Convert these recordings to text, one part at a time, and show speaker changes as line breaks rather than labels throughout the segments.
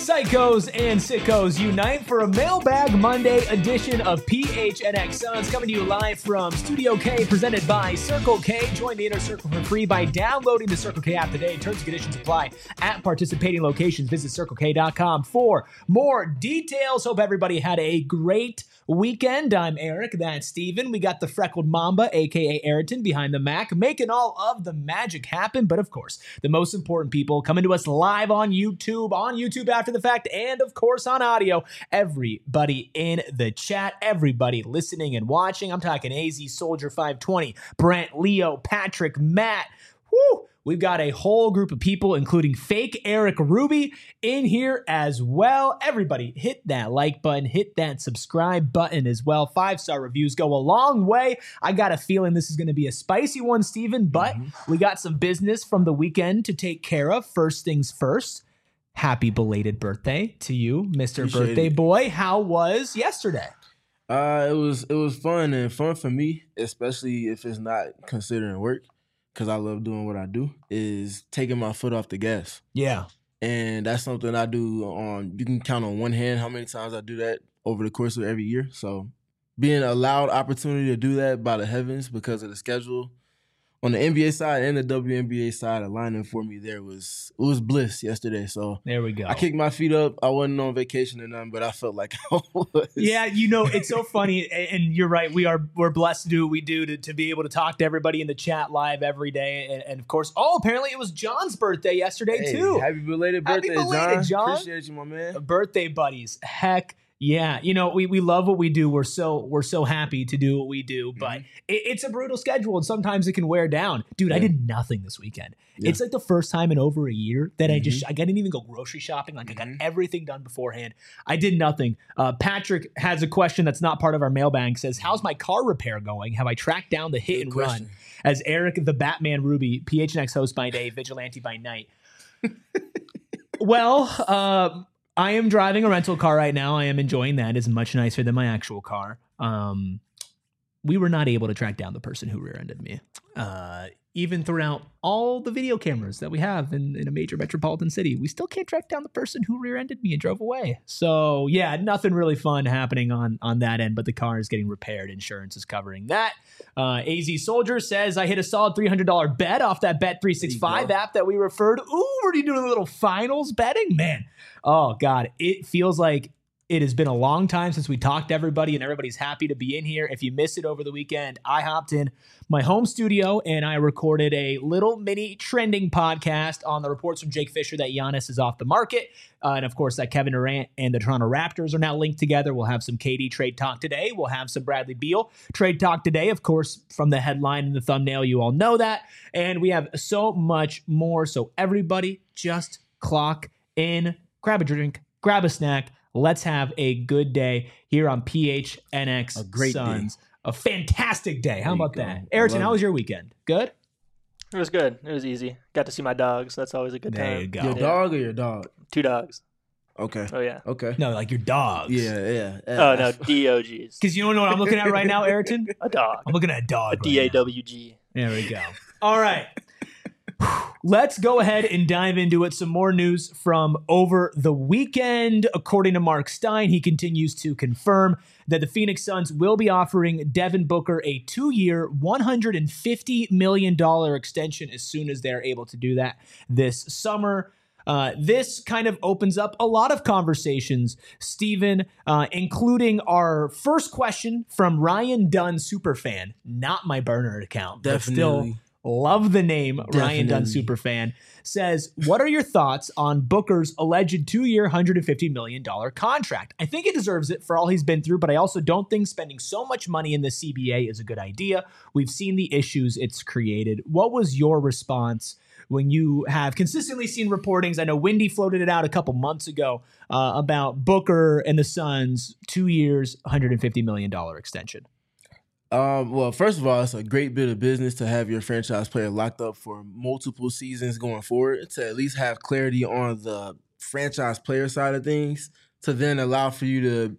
Psychos and sickos unite for a Mailbag Monday edition of PHNX Suns, coming to you live from Studio K, presented by Circle K. Join the Inner Circle for free by downloading the Circle K app today. Terms and conditions apply at participating locations. Visit CircleK.com for more details. Hope everybody had a great weekend. I'm Eric, that's Steven. We got the freckled Mamba, aka Ayrton, behind the Mac, making all of the magic happen. But of course, the most important people coming to us live on YouTube after the fact, and of course on audio. Everybody in the chat, everybody listening and watching. I'm talking AZ Soldier 520, Brent, Leo, Patrick, Matt. Woo! We've got a whole group of people, including fake Eric Ruby, in here as well. Everybody hit that like button, hit that subscribe button as well. 5-star reviews go a long way. I got a feeling this is going to be a spicy one, Steven, but we got some business from the weekend to take care of. First things first, happy belated birthday to you, Mr.
Appreciate
Birthday
it.
Boy. How was yesterday?
It was fun and fun for me, especially if it's not considering work, because I love doing what I do, is taking my foot off the gas.
Yeah.
And that's something I do on, you can count on one hand how many times I do that over the course of every year. So being allowed opportunity to do that by the heavens because of the schedule on the NBA side and the WNBA side aligning for me there it was bliss yesterday. So
There we go.
I kicked my feet up. I wasn't on vacation or nothing, but I felt like I was.
Yeah, you know, it's so funny, and you're right. We're blessed to do what we do to be able to talk to everybody in the chat live every day, and of course, apparently it was John's birthday yesterday
Hey,
too.
Happy belated birthday,
Happy belated, John.
Appreciate you, my man.
Birthday buddies, heck yeah! You know, we love what we do. We're so happy to do what we do, but it's a brutal schedule, and sometimes it can wear down. Dude, I did nothing this weekend.
Yeah.
It's like the first time in over a year that I didn't even go grocery shopping. Like I got everything done beforehand. I did nothing. Patrick has a question that's not part of our mailbag. Says, "How's my car repair going? Have I tracked down the hit and run?" As Eric, the Batman Ruby, PHNX host by day, vigilante by night. Well, I am driving a rental car right now. I am enjoying that. It's much nicer than my actual car. We were not able to track down the person who rear-ended me. Even throughout all the video cameras that we have in a major metropolitan city, we still can't track down the person who rear-ended me and drove away. So yeah, nothing really fun happening on that end, but the car is getting repaired. Insurance is covering that. AZ Soldier says, I hit a solid $300 bet off that Bet365 app that we referred. Ooh, we're doing a little finals betting? Man, oh God, it feels like it has been a long time since we talked to everybody, and everybody's happy to be in here. If you missed it over the weekend, I hopped in my home studio and I recorded a little mini trending podcast on the reports from Jake Fisher that Giannis is off the market. And of course, that Kevin Durant and the Toronto Raptors are now linked together. We'll have some KD trade talk today. We'll have some Bradley Beal trade talk today. Of course, from the headline and the thumbnail, you all know that. And we have so much more. So everybody just clock in, grab a drink, grab a snack. Let's have a good day here on PHNX
A great
Suns.
day.
A fantastic day. How
There you
about
go.
that? Ayrton, how was your weekend? Good?
It was good. It was easy. Got to see my dogs. That's always a good
There
time.
you go.
Your dog or your dog?
2 dogs.
Okay.
Oh, yeah.
Okay.
No, like your dogs.
Yeah.
Oh, no. DOGs.
Because you don't know what I'm looking at right now, Ayrton?
A dog.
I'm looking at a dog.
A DAWG.
There we go. All right. Let's go ahead and dive into it. Some more news from over the weekend. According to Mark Stein, he continues to confirm that the Phoenix Suns will be offering Devin Booker a 2-year, $150 million extension as soon as they're able to do that this summer. This kind of opens up a lot of conversations, Steven, including our first question from Ryan Dunn Superfan, not my burner account, but still
Definitely.
love the name Ryan Dunn
Definitely.
Superfan, says, what are your thoughts on Booker's alleged 2-year, $150 million contract? I think he deserves it for all he's been through, but I also don't think spending so much money in the CBA is a good idea. We've seen the issues it's created. What was your response when you have consistently seen reportings? I know Wendy floated it out a couple months ago about Booker and the Suns, 2 years, $150 million extension.
Well, first of all, it's a great bit of business to have your franchise player locked up for multiple seasons going forward, to at least have clarity on the franchise player side of things, to then allow for you to.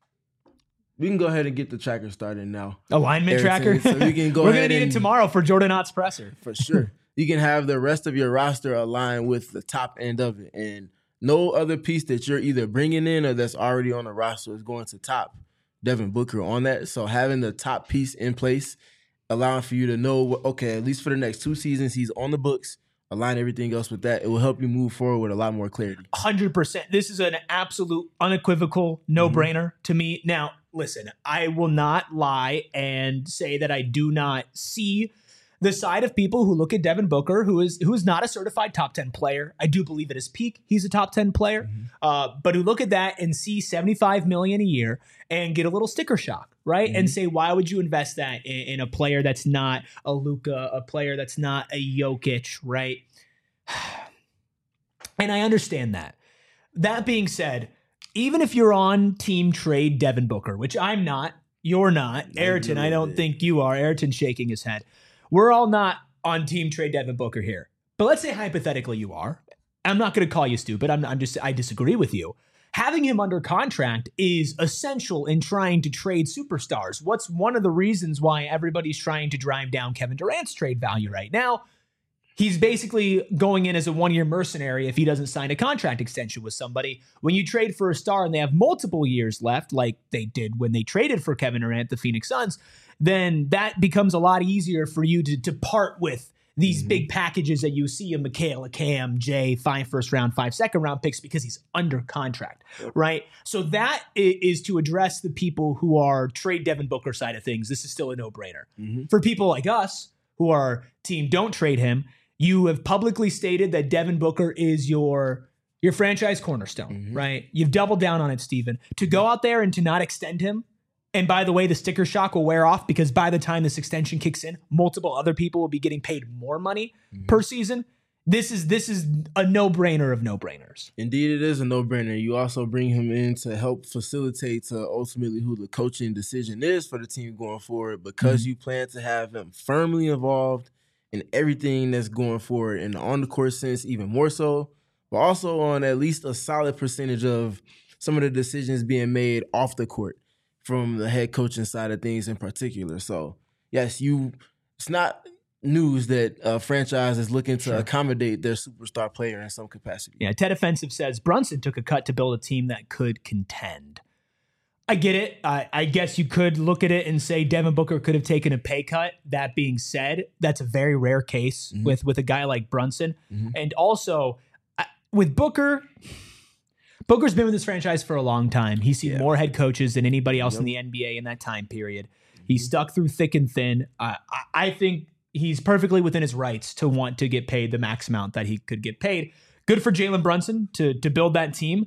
We can go ahead and get the tracker started now.
Alignment
Ayrton,
tracker?
so we can go
We're
ahead
going to need it
and-
tomorrow for Jordan Ott's presser.
For sure. You can have the rest of your roster align with the top end of it. And no other piece that you're either bringing in or that's already on the roster is going to top Devin Booker on that. So having the top piece in place, allowing for you to know, okay, at least for the next 2 seasons, he's on the books, align everything else with that. It will help you move forward with a lot more clarity.
100%. This is an absolute unequivocal no-brainer to me. Now, listen, I will not lie and say that I do not see the side of people who look at Devin Booker, who is not a certified top 10 player. I do believe at his peak, he's a top 10 player, but who look at that and see $75 million a year and get a little sticker shock, right? And say, why would you invest that in a player that's not a Luka, a player that's not a Jokic, right? And I understand that. That being said, even if you're on team trade Devin Booker, which I'm not, you're not, Ayrton, I don't think you are. Ayrton's shaking his head. We're all not on team trade Devin Booker here. But let's say hypothetically you are. I'm not going to call you stupid. I disagree with you. Having him under contract is essential in trying to trade superstars. What's one of the reasons why everybody's trying to drive down Kevin Durant's trade value right now? He's basically going in as a one-year mercenary if he doesn't sign a contract extension with somebody. When you trade for a star and they have multiple years left, like they did when they traded for Kevin Durant, the Phoenix Suns, then that becomes a lot easier for you to part with these big packages that you see in Mikal, a Cam, Jay, 5 first round, 5 second round picks because he's under contract, right? So that is to address the people who are trade Devin Booker side of things. This is still a no-brainer. For people like us who are team don't trade him, you have publicly stated that Devin Booker is your franchise cornerstone, right? You've doubled down on it, Steven. To go out there and to not extend him, and by the way, the sticker shock will wear off because by the time this extension kicks in, multiple other people will be getting paid more money per season. This is a no-brainer of no-brainers.
Indeed, it is a no-brainer. You also bring him in to help facilitate to ultimately who the coaching decision is for the team going forward because you plan to have him firmly involved in everything that's going forward in the on-the-court sense, even more so, but also on at least a solid percentage of some of the decisions being made off the court from the head coaching side of things in particular. So, yes, it's not news that a franchise is looking to accommodate their superstar player in some capacity.
Yeah, Ted Offensive says, Brunson took a cut to build a team that could contend. I get it. I guess you could look at it and say Devin Booker could have taken a pay cut. That being said, that's a very rare case with a guy like Brunson. And also, with Booker... Booker's been with this franchise for a long time. He's seen more head coaches than anybody else in the NBA in that time period. He's stuck through thick and thin. I think he's perfectly within his rights to want to get paid the max amount that he could get paid. Good for Jalen Brunson to build that team.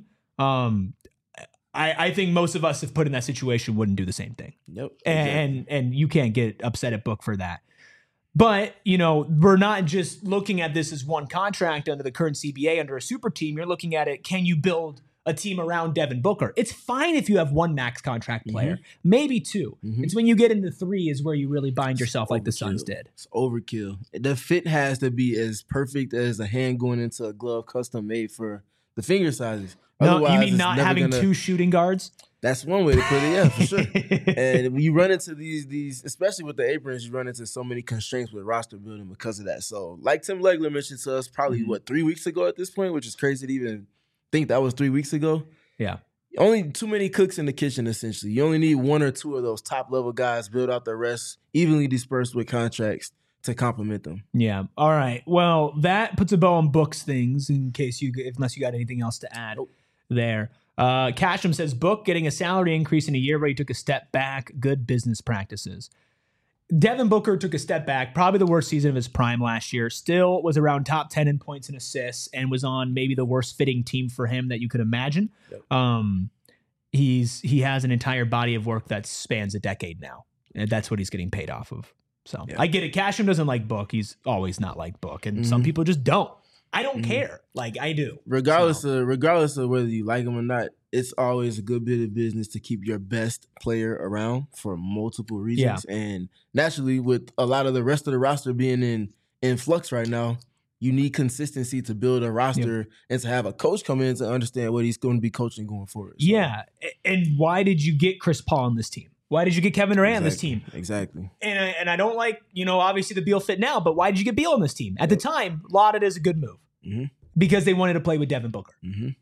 I think most of us, if put in that situation, wouldn't do the same thing. And you can't get upset at Book for that. But, we're not just looking at this as one contract under the current CBA under a super team. You're looking at it, can you build a team around Devin Booker? It's fine if you have one max contract player, maybe 2. It's when you get into 3 is where you really bind yourself like the Suns did.
It's overkill. The fit has to be as perfect as a hand going into a glove custom made for the finger sizes.
No, you mean not having 2 shooting guards?
That's one way to put it, yeah, for sure. And when you run into these, especially with the aprons, you run into so many constraints with roster building because of that. So, like Tim Legler mentioned to us probably, 3 weeks ago at this point, which is crazy to even think that was 3 weeks ago.
Yeah.
Only too many cooks in the kitchen, essentially. You only need 1 or 2 of those top-level guys, build out the rest, evenly dispersed with contracts to complement them.
Yeah. All right. Well, that puts a bow on Book's things in case unless you got anything else to add there. Casham says, Book getting a salary increase in a year where he took a step back. Good business practices. Devin Booker took a step back, probably the worst season of his prime last year. Still was around top 10 in points and assists and was on maybe the worst fitting team for him that you could imagine. He has an entire body of work that spans a decade now. And that's what he's getting paid off of. So I get it. Casham doesn't like Book. He's always not liked Book. And some people just don't. I don't care. Like I do.
Regardless of whether you like him or not, it's always a good bit of business to keep your best player around for multiple reasons. Yeah. And naturally, with a lot of the rest of the roster being in flux right now, you need consistency to build a roster and to have a coach come in to understand what he's going to be coaching going forward. So.
Yeah. And why did you get Chris Paul on this team? Why did you get Kevin Durant on this team?
Exactly.
And I don't like, obviously the Beal fit now, but why did you get Beal on this team? At the time, lauded as a good move because they wanted to play with Devin Booker.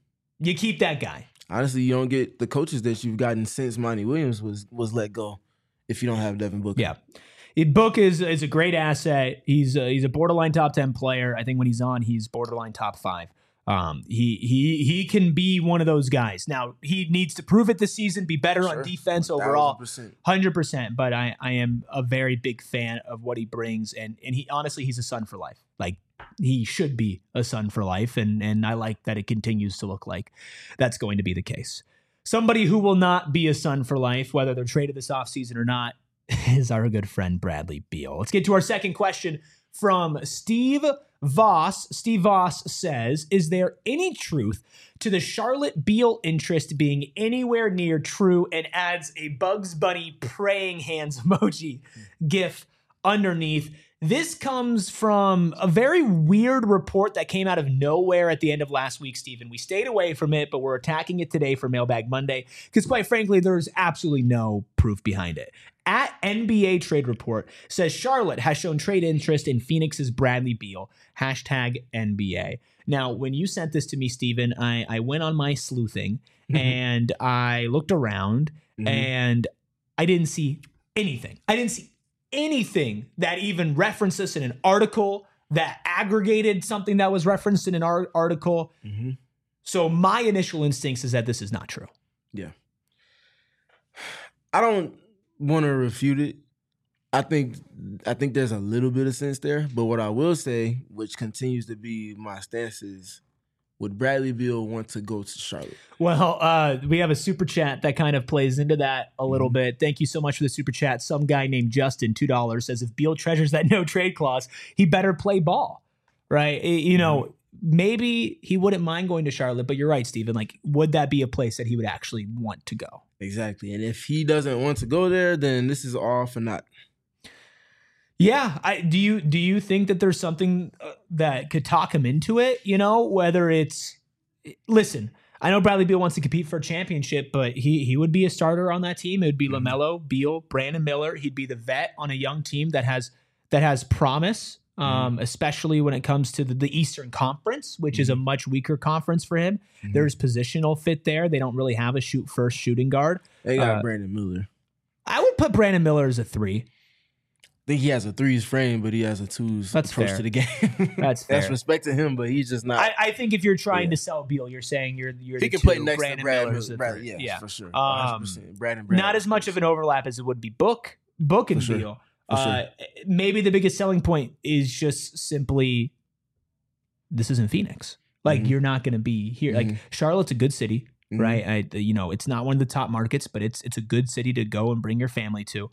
You keep that guy.
Honestly, you don't get the coaches that you've gotten since Monty Williams was let go if you don't have Devin Booker.
Yeah. Book is a great asset. He's a borderline top 10 player. I think when he's on, he's borderline top 5. He can be one of those guys. Now, he needs to prove it this season, be better on defense overall. 100%. But I am a very big fan of what he brings. And he honestly, he's a son for life. Like, he should be a son for life. And I like that it continues to look like that's going to be the case. Somebody who will not be a son for life, whether they're traded this offseason or not, is our good friend Bradley Beal. Let's get to our second question from Steve Voss. Steve Voss says, is there any truth to the Charlotte Beal interest being anywhere near true, and adds a Bugs Bunny praying hands emoji gif underneath? This comes from a very weird report that came out of nowhere at the end of last week, Stephen. We stayed away from it, but we're attacking it today for Mailbag Monday because, quite frankly, there's absolutely no proof behind it. At NBA Trade Report says Charlotte has shown trade interest in Phoenix's Bradley Beal, #NBA. Now, when you sent this to me, Stephen, I went on my sleuthing and I looked around and I didn't see anything. I didn't see anything that even referenced this in an article, that aggregated something that was referenced in an article. So my initial instincts is that this is not true.
Yeah. I don't want to refute it. I think there's a little bit of sense there, but what I will say, which continues to be my stance, is would Bradley Beal want to go to Charlotte?
Well, we have a super chat that kind of plays into that a little bit. Thank you so much for the super chat. Some guy named Justin, $2, says if Beal treasures that no trade clause, he better play ball, right? You know, maybe he wouldn't mind going to Charlotte, but you're right, Stephen. Like, would that be a place that he would actually want to go?
Exactly. And if he doesn't want to go there, then this is all for naught.
Yeah. Do you think that there's something that could talk him into it? You know, whether it's, listen, I know Bradley Beal wants to compete for a championship, but he would be a starter on that team. It would be LaMelo, Beal, Brandon Miller. He'd be the vet on a young team that has promise, especially when it comes to the Eastern Conference, which is a much weaker conference for him. There's positional fit there. They don't really have a shoot-first shooting guard.
They got Brandon Miller.
I would put Brandon Miller as a 3.
I think he has a 3's frame, but he has a 2's approach to the game.
That's fair.
That's respect to him, but he's just not.
I think if you're trying to sell Beal, you're saying you're
he
the
can
2.
play next
Brandon
to Brad
Miller's the
Miller.
3.
Yeah, for sure. 100%. Brandon
Not as much of an overlap as it would be Book and Beal. Maybe the biggest selling point is just simply this isn't Phoenix. Like, you're not going to be here. Like, Charlotte's a good city, right? It's not one of the top markets, but it's a good city to go and bring your family to.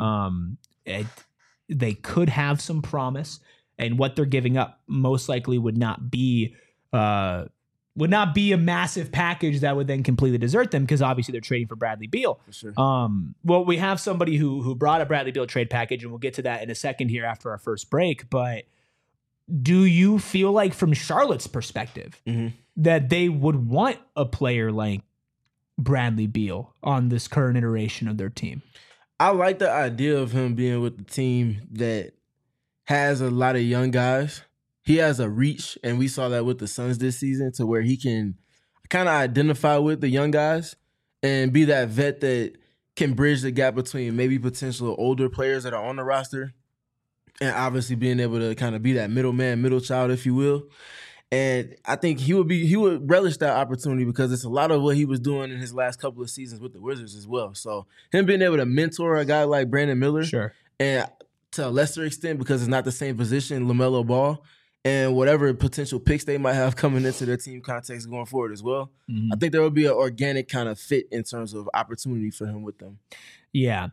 They could have some promise, and what they're giving up most likely would not be a massive package that would then completely desert them, because obviously they're trading for Bradley Beal.
For sure.
Well, we have somebody who brought a Bradley Beal trade package, and we'll get to that in a second here after our first break. But do you feel like, from Charlotte's perspective, that they would want a player like Bradley Beal on this current iteration of their team?
I like the idea of him being with the team that has a lot of young guys. He has a reach, and we saw that with the Suns this season, to where he can kind of identify with the young guys and be that vet that can bridge the gap between maybe potential older players that are on the roster, and obviously being able to kind of be that middleman, middle child, if you will. And I think he would relish that opportunity, because it's a lot of what he was doing in his last couple of seasons with the Wizards as well. So him being able to mentor a guy like Brandon Miller, and to a lesser extent, because it's not the same position, LaMelo Ball, and whatever potential picks they might have coming into their team context going forward as well, I think there would be an organic kind of fit in terms of opportunity for him with them.
Yeah.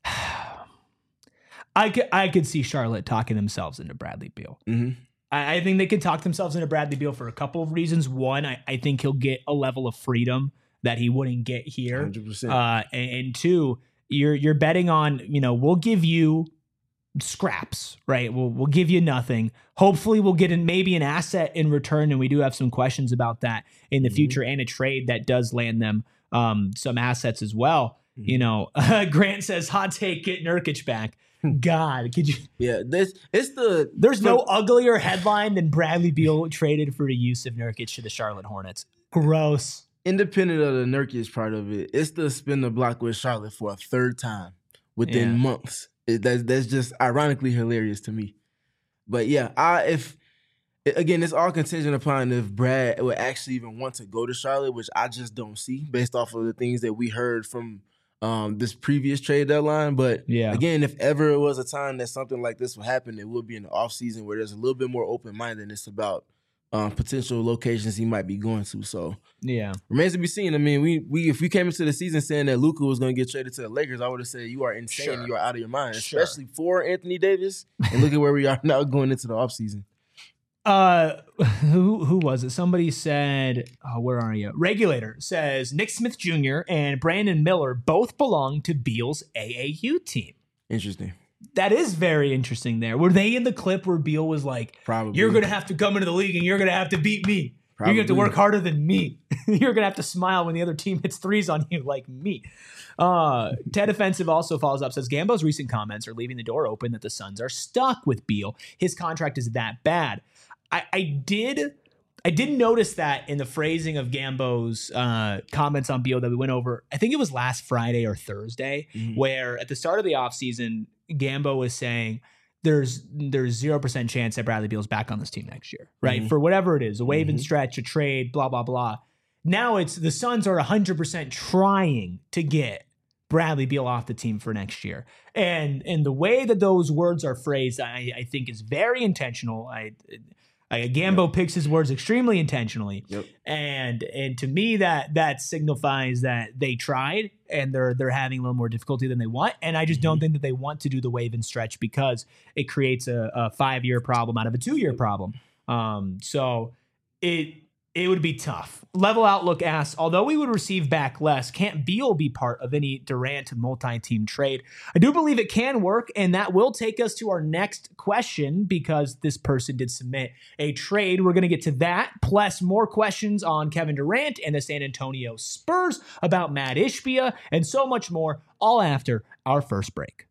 I could see Charlotte talking themselves into Bradley Beal. I think they could talk themselves into Bradley Beal for a couple of reasons. One, I think he'll get a level of freedom that he wouldn't get here.
100%.
And two, you're betting on, we'll give you scraps, right? We'll give you nothing. Hopefully we'll get maybe an asset in return, and we do have some questions about that in the future, and a trade that does land them some assets as well. Grant says, hot take, get Nurkic back. God, could you?
Yeah, there's
no uglier headline than Bradley Beal traded for the use of Nurkic to the Charlotte Hornets. Gross.
Independent of the Nurkic part of it, it's the spin the block with Charlotte for a third time within months. That's just ironically hilarious to me. But yeah, again, it's all contingent upon if Brad would actually even want to go to Charlotte, which I just don't see based off of the things that we heard from this previous trade deadline. But again, if ever it was a time that something like this would happen, it would be in the offseason where there's a little bit more open-mindedness about potential locations he might be going to. So remains to be seen. I mean, we if we came into the season saying that Luka was going to get traded to the Lakers, I would have said you are insane. Sure. You are out of your mind, especially for Anthony Davis. And look at where we are now going into the offseason.
Who was it? Somebody said, where are you? Regulator says Nick Smith Jr. and Brandon Miller both belong to Beal's AAU team.
Interesting.
That is very interesting there. Were they in the clip where Beal was like,
probably,
you're going to have to come into the league and you're going to have to beat me.
Probably.
You're going to have to work harder than me. You're going to have to smile when the other team hits threes on you like me. Ted Offensive also follows up, says Gambo's recent comments are leaving the door open that the Suns are stuck with Beal. His contract is that bad. I did notice that in the phrasing of Gambo's comments on Beal that we went over. I think it was last Friday or Thursday, where at the start of the offseason, Gambo was saying there's 0% chance that Bradley Beal's back on this team next year, right? For whatever it is, a wave and stretch, a trade, blah, blah, blah. Now it's the Suns are 100% trying to get Bradley Beal off the team for next year. And the way that those words are phrased, I think is very intentional. Gambo picks his words extremely intentionally. And to me that signifies that they tried and they're having a little more difficulty than they want. And I just don't think that they want to do the wave and stretch because it creates a 5-year problem out of a 2-year problem. So it would be tough. Level Outlook asks, although we would receive back less, can't Beal be part of any Durant multi-team trade? I do believe it can work, and that will take us to our next question because this person did submit a trade. We're going to get to that, plus more questions on Kevin Durant and the San Antonio Spurs, about Matt Ishbia, and so much more, all after our first break.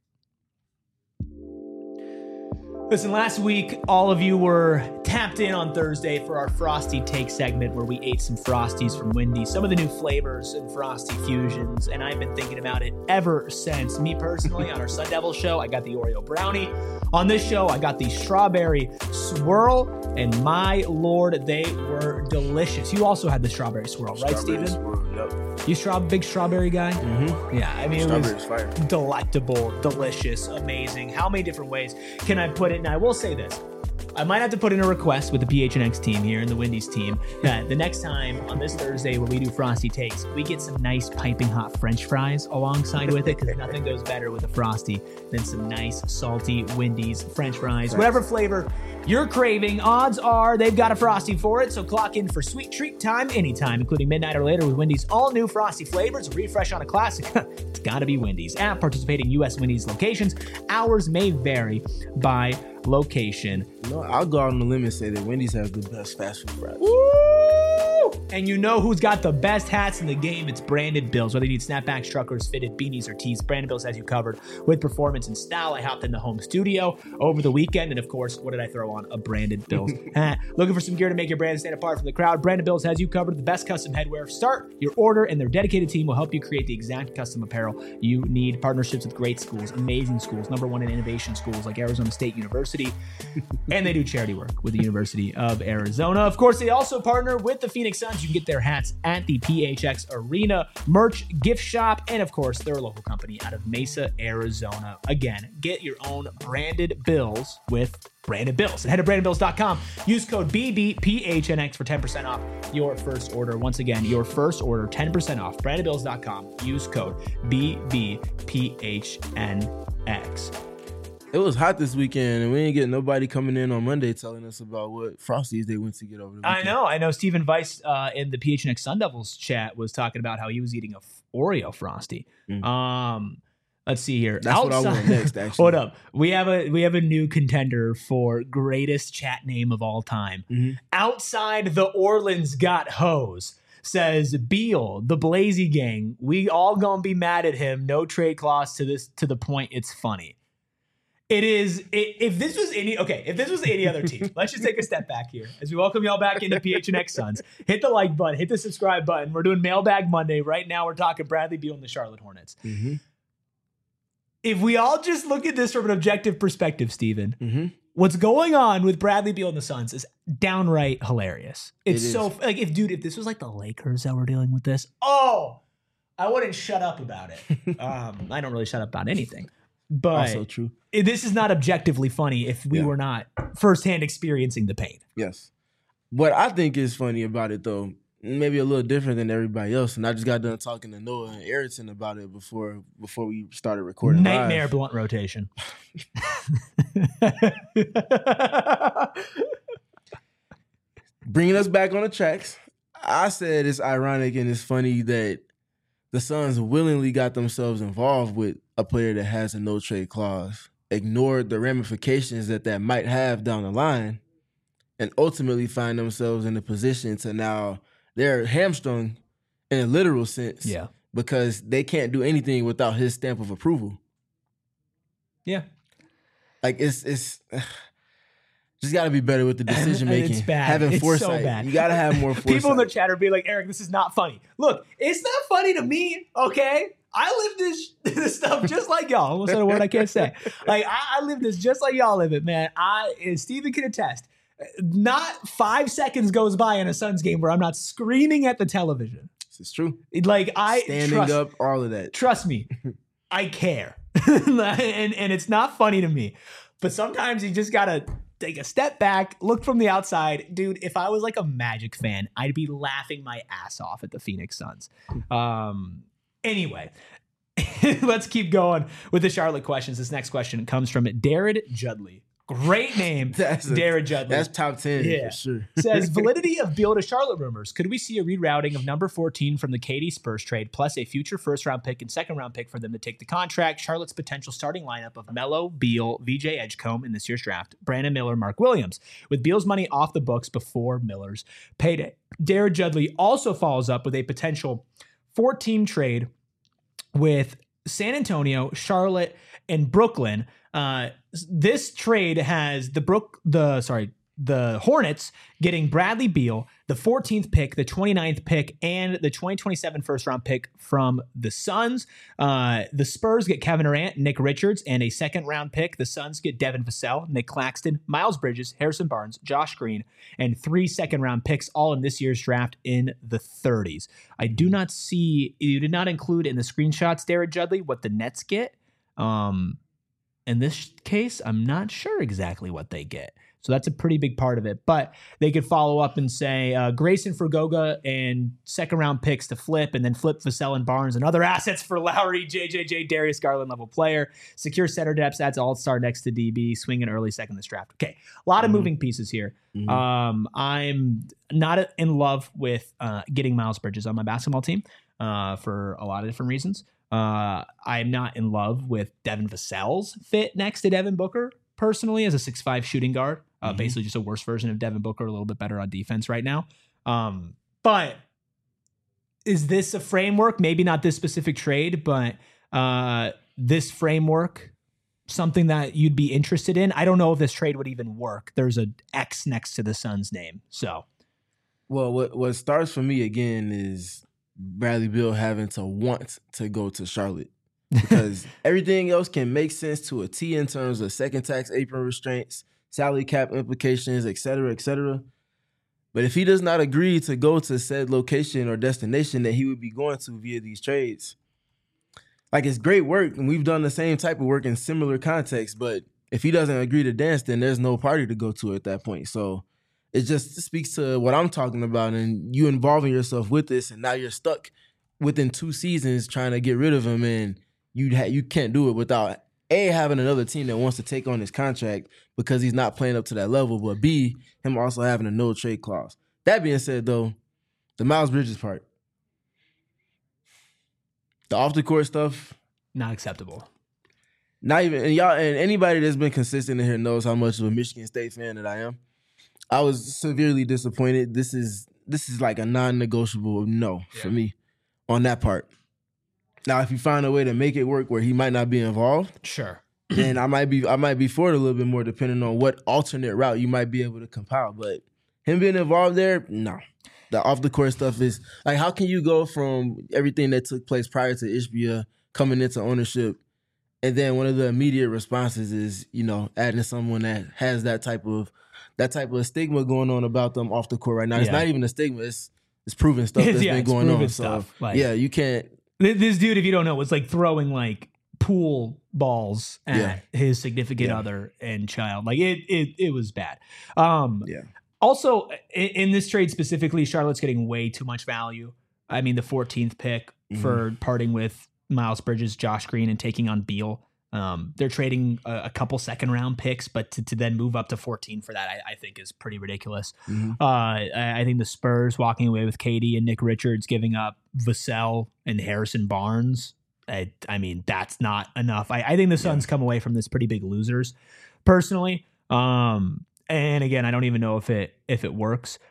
Listen, last week, all of you were tapped in on Thursday for our Frosty Take segment where we ate some Frosties from Wendy's, some of the new flavors and Frosty fusions, and I've been thinking about it ever since. Me personally, on our Sun Devil show, I got the Oreo brownie. On this show, I got the strawberry swirl, and my lord, they were delicious. You also had the strawberry swirl, right, Steven?
Swirl, yep.
You big strawberry guy? Yeah, I mean, it was
fire.
Delectable, delicious, amazing. How many different ways can I put it? And I will say this. I might have to put in a request with the PHNX team here and the Wendy's team that the next time on this Thursday when we do Frosty Takes, we get some nice piping hot French fries alongside with it because nothing goes better with a Frosty than some nice salty Wendy's French fries. Whatever flavor you're craving, odds are they've got a Frosty for it. So clock in for sweet treat time anytime, including midnight or later with Wendy's all new Frosty flavors. Refresh on a classic. It's got to be Wendy's. At participating U.S. Wendy's locations, hours may vary by location.
No, I'll go out on the limb and say that Wendy's has the best fast food fries.
Woo! And you know who's got the best hats in the game? It's Branded Bills. Whether you need snapbacks, truckers, fitted beanies, or tees, Branded Bills has you covered with performance and style. I hopped in the home studio over the weekend, and of course, what did I throw on? A Branded Bills hat. Looking for some gear to make your brand stand apart from the crowd? Branded Bills has you covered. The best custom headwear. Start your order, and their dedicated team will help you create the exact custom apparel you need. Partnerships with great schools, amazing schools, #1 in innovation schools like Arizona State University, and they do charity work with the University of Arizona. Of course, they also partner with the Phoenix Suns. You can get their hats at the PHX Arena merch gift shop, and of course, they're a local company out of Mesa, Arizona. Again, get your own Branded Bills with Branded Bills. And head to brandedbills.com. Use code BBPHNX for 10% off your first order. Once again, your first order, 10% off. brandedbills.com. Use code BBPHNX.
It was hot this weekend, and we didn't get nobody coming in on Monday telling us about what Frosties they went to get over the weekend.
I know. Stephen Weiss in the PHNX Sun Devils chat was talking about how he was eating a Oreo Frosty. Let's see here.
That's what I want next, actually.
Hold up. We have a new contender for greatest chat name of all time. Outside the Orleans got hose. Says Beal, the Blazy Gang. We all gonna be mad at him. No trade clause to the point it's funny. It is. If this was any other team, let's just take a step back here as we welcome y'all back into PHNX Suns. Hit the like button, hit the subscribe button. We're doing Mailbag Monday right now. We're talking Bradley Beal and the Charlotte Hornets.
Mm-hmm.
If we all just look at this from an objective perspective, Steven,
Mm-hmm.
what's going on with Bradley Beal and the Suns is downright hilarious. It's
It
so
is.
like if this was like the Lakers that were dealing with this, I wouldn't shut up about it. I don't really shut up about anything, but
Also true.
this is not objectively funny if we were not firsthand experiencing the pain.
Yes. What I think is funny about it, though, maybe a little different than everybody else, and I just got done talking to Noah and Ayrton about it before we started recording
Nightmare
live.
blunt rotation.
Bringing us back on the tracks, I said it's ironic and it's funny that the Suns willingly got themselves involved with a player that has a no-trade clause, ignored the ramifications that might have down the line, and ultimately find themselves in a position to now they're hamstrung in a literal sense because they can't do anything without his stamp of approval.
Yeah.
Like it's just got to be better with the decision making.
It's bad.
Having
It's
foresight.
so bad.
You got to have more foresight.
People in the chat are being like, Eric, this is not funny. Look, it's not funny to me, okay? I live this stuff just like y'all. Almost said a word I can't say. Like, I live this just like y'all live it, man. And Steven can attest. Not 5 seconds goes by in a Suns game where I'm not screaming at the television.
This is true.
Like,
Standing up, all of that.
Trust me, I care. and it's not funny to me. But sometimes you just got to take a step back, look from the outside. Dude, if I was like a Magic fan, I'd be laughing my ass off at the Phoenix Suns. Anyway, let's keep going with the Charlotte questions. This next question comes from Darren Judley. Great name, Darren Judley.
That's top 10 for sure.
Says, validity of Beal to Charlotte rumors. Could we see a rerouting of number 14 from the KD Spurs trade, plus a future first-round pick and second-round pick for them to take the contract? Charlotte's potential starting lineup of Melo, Beal, VJ Edgecombe in this year's draft, Brandon Miller, Mark Williams, with Beal's money off the books before Miller's payday. Darren Judley also follows up with a potential 4-team trade with San Antonio, Charlotte, and Brooklyn. This trade has the Hornets getting Bradley Beal, the 14th pick, the 29th pick, and the 2027 first-round pick from the Suns. The Spurs get Kevin Durant, Nick Richards, and a second-round pick. The Suns get Devin Vassell, Nick Claxton, Miles Bridges, Harrison Barnes, Josh Green, and 3 second-round picks, all in this year's draft in the 30s. I do not see, you did not include in the screenshots, Darren Judley, what the Nets get. In this case, I'm not sure exactly what they get. So that's a pretty big part of it. But they could follow up and say Grayson Fergoga and second-round picks to flip, and then flip Vassell and Barnes and other assets for Lowry, JJJ, Darius Garland level player. Secure center depth, adds all-star next to DB, swing an early second this draft. Okay, a lot of moving pieces here. I'm not in love with getting Miles Bridges on my basketball team for a lot of different reasons. I'm not in love with Devin Vassell's fit next to Devin Booker personally as a 6'5" shooting guard. Basically just a worse version of Devin Booker, a little bit better on defense right now. But is this a framework? Maybe not this specific trade, but this framework, something that you'd be interested in? I don't know if this trade would even work. There's an X next to the Suns' name. So,
well, what starts for me again is Bradley Beal having to want to go to Charlotte, because everything else can make sense to a T in terms of second tax apron restraints, salary cap implications, et cetera, et cetera. But if he does not agree to go to said location or destination that he would be going to via these trades, like, it's great work, and we've done the same type of work in similar contexts, but if he doesn't agree to dance, then there's no party to go to at that point. So it just speaks to what I'm talking about, and you involving yourself with this, and now you're stuck within 2 seasons trying to get rid of him, and you can't do it without A, having another team that wants to take on his contract because he's not playing up to that level, but B, him also having a no trade clause. That being said, though, the Miles Bridges part, the off the court stuff,
not acceptable.
Not even, and y'all, and anybody that's been consistent in here knows how much of a Michigan State fan that I am. I was severely disappointed. This is like a non-negotiable no for me on that part. Now, if you find a way to make it work where he might not be involved,
Sure.
then I might be for it a little bit more, depending on what alternate route you might be able to compile. But him being involved there, no. The off the court stuff is like, how can you go from everything that took place prior to Ishbia coming into ownership, and then one of the immediate responses is, adding someone that has that type of stigma going on about them off the court right now. It's not even a stigma; it's proven stuff that's been going on. So you can't.
This dude, if you don't know, was like throwing like pool balls at his significant other and child. Like it was bad. Also, in this trade specifically, Charlotte's getting way too much value. I mean, the 14th pick for parting with Miles Bridges, Josh Green, and taking on Beal. They're trading a couple second-round picks, but to then move up to 14 for that, I think is pretty ridiculous. I think the Spurs walking away with KD and Nick Richards, giving up Vassell and Harrison Barnes. I mean, that's not enough. I think the Suns come away from this pretty big losers, personally. And again, I don't even know if it works.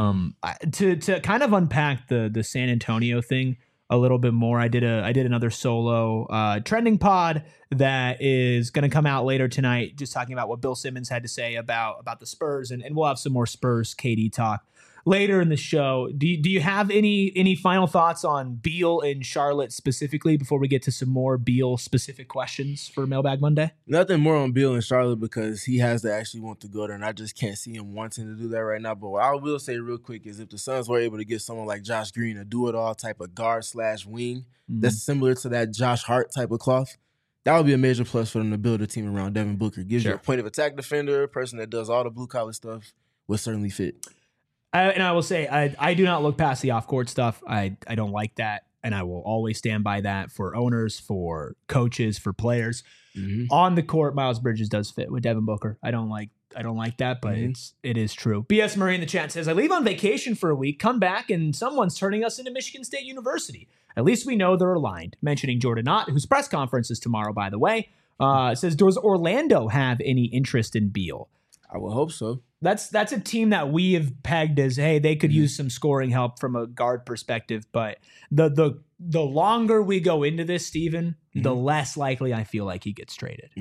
To kind of unpack the San Antonio thing a little bit more, I did another solo trending pod that is going to come out later tonight, just talking about what Bill Simmons had to say about the Spurs, and we'll have some more Spurs KD talk later in the show. Do you have any final thoughts on Beal and Charlotte specifically before we get to some more Beal specific questions for Mailbag Monday?
Nothing more on Beal and Charlotte because he has to actually want to go there, and I just can't see him wanting to do that right now. But what I will say real quick is if the Suns were able to get someone like Josh Green, a do-it-all type of guard/wing that's similar to that Josh Hart type of cloth, that would be a major plus for them to build a team around Devin Booker. Gives you a point of attack defender, a person that does all the blue-collar stuff, would certainly fit.
And I will say, I do not look past the off-court stuff. I don't like that, and I will always stand by that for owners, for coaches, for players. On the court, Miles Bridges does fit with Devin Booker. I don't like that, but it is true. BS Murray in the chat says, I leave on vacation for a week, come back, and someone's turning us into Michigan State University. At least we know they're aligned. Mentioning Jordan Ott, whose press conference is tomorrow, by the way, says, does Orlando have any interest in Beal?
I would hope so.
That's a team that we have pegged as, hey, they could use some scoring help from a guard perspective. But the longer we go into this, Steven, the less likely I feel like he gets traded.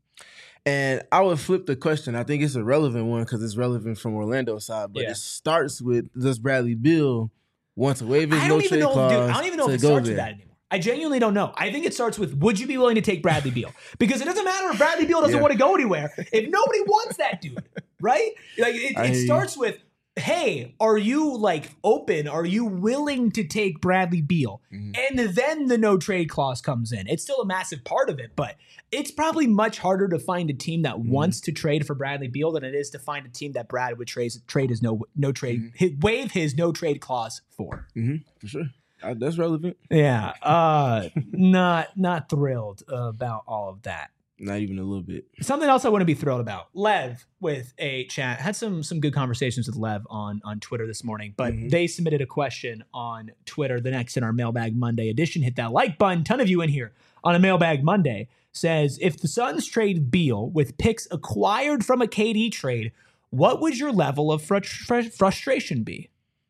And I would flip the question. I think it's a relevant one because it's relevant from Orlando's side. But it starts with, does Bradley Beal want to waive his no-trade clause?
Dude, I don't even know if it starts with that anymore. I genuinely don't know. I think it starts with, would you be willing to take Bradley Beal? Because it doesn't matter if Bradley Beal doesn't want to go anywhere. If nobody wants that dude, right? Like it starts with, hey, are you like open? Are you willing to take Bradley Beal? And then the no trade clause comes in. It's still a massive part of it, but it's probably much harder to find a team that wants to trade for Bradley Beal than it is to find a team that Brad would trade his no trade, waive his no trade clause for.
For sure. That's relevant.
Yeah. Not thrilled about all of that.
Not even a little bit.
Something else I want to be thrilled about. Lev with a chat had some good conversations with Lev on Twitter this morning, but they submitted a question on Twitter. The next in our Mailbag Monday edition. Hit that like button. Ton of you in here on a Mailbag Monday. Says, if the Suns trade Beal with picks acquired from a KD trade, what would your level of frustration be?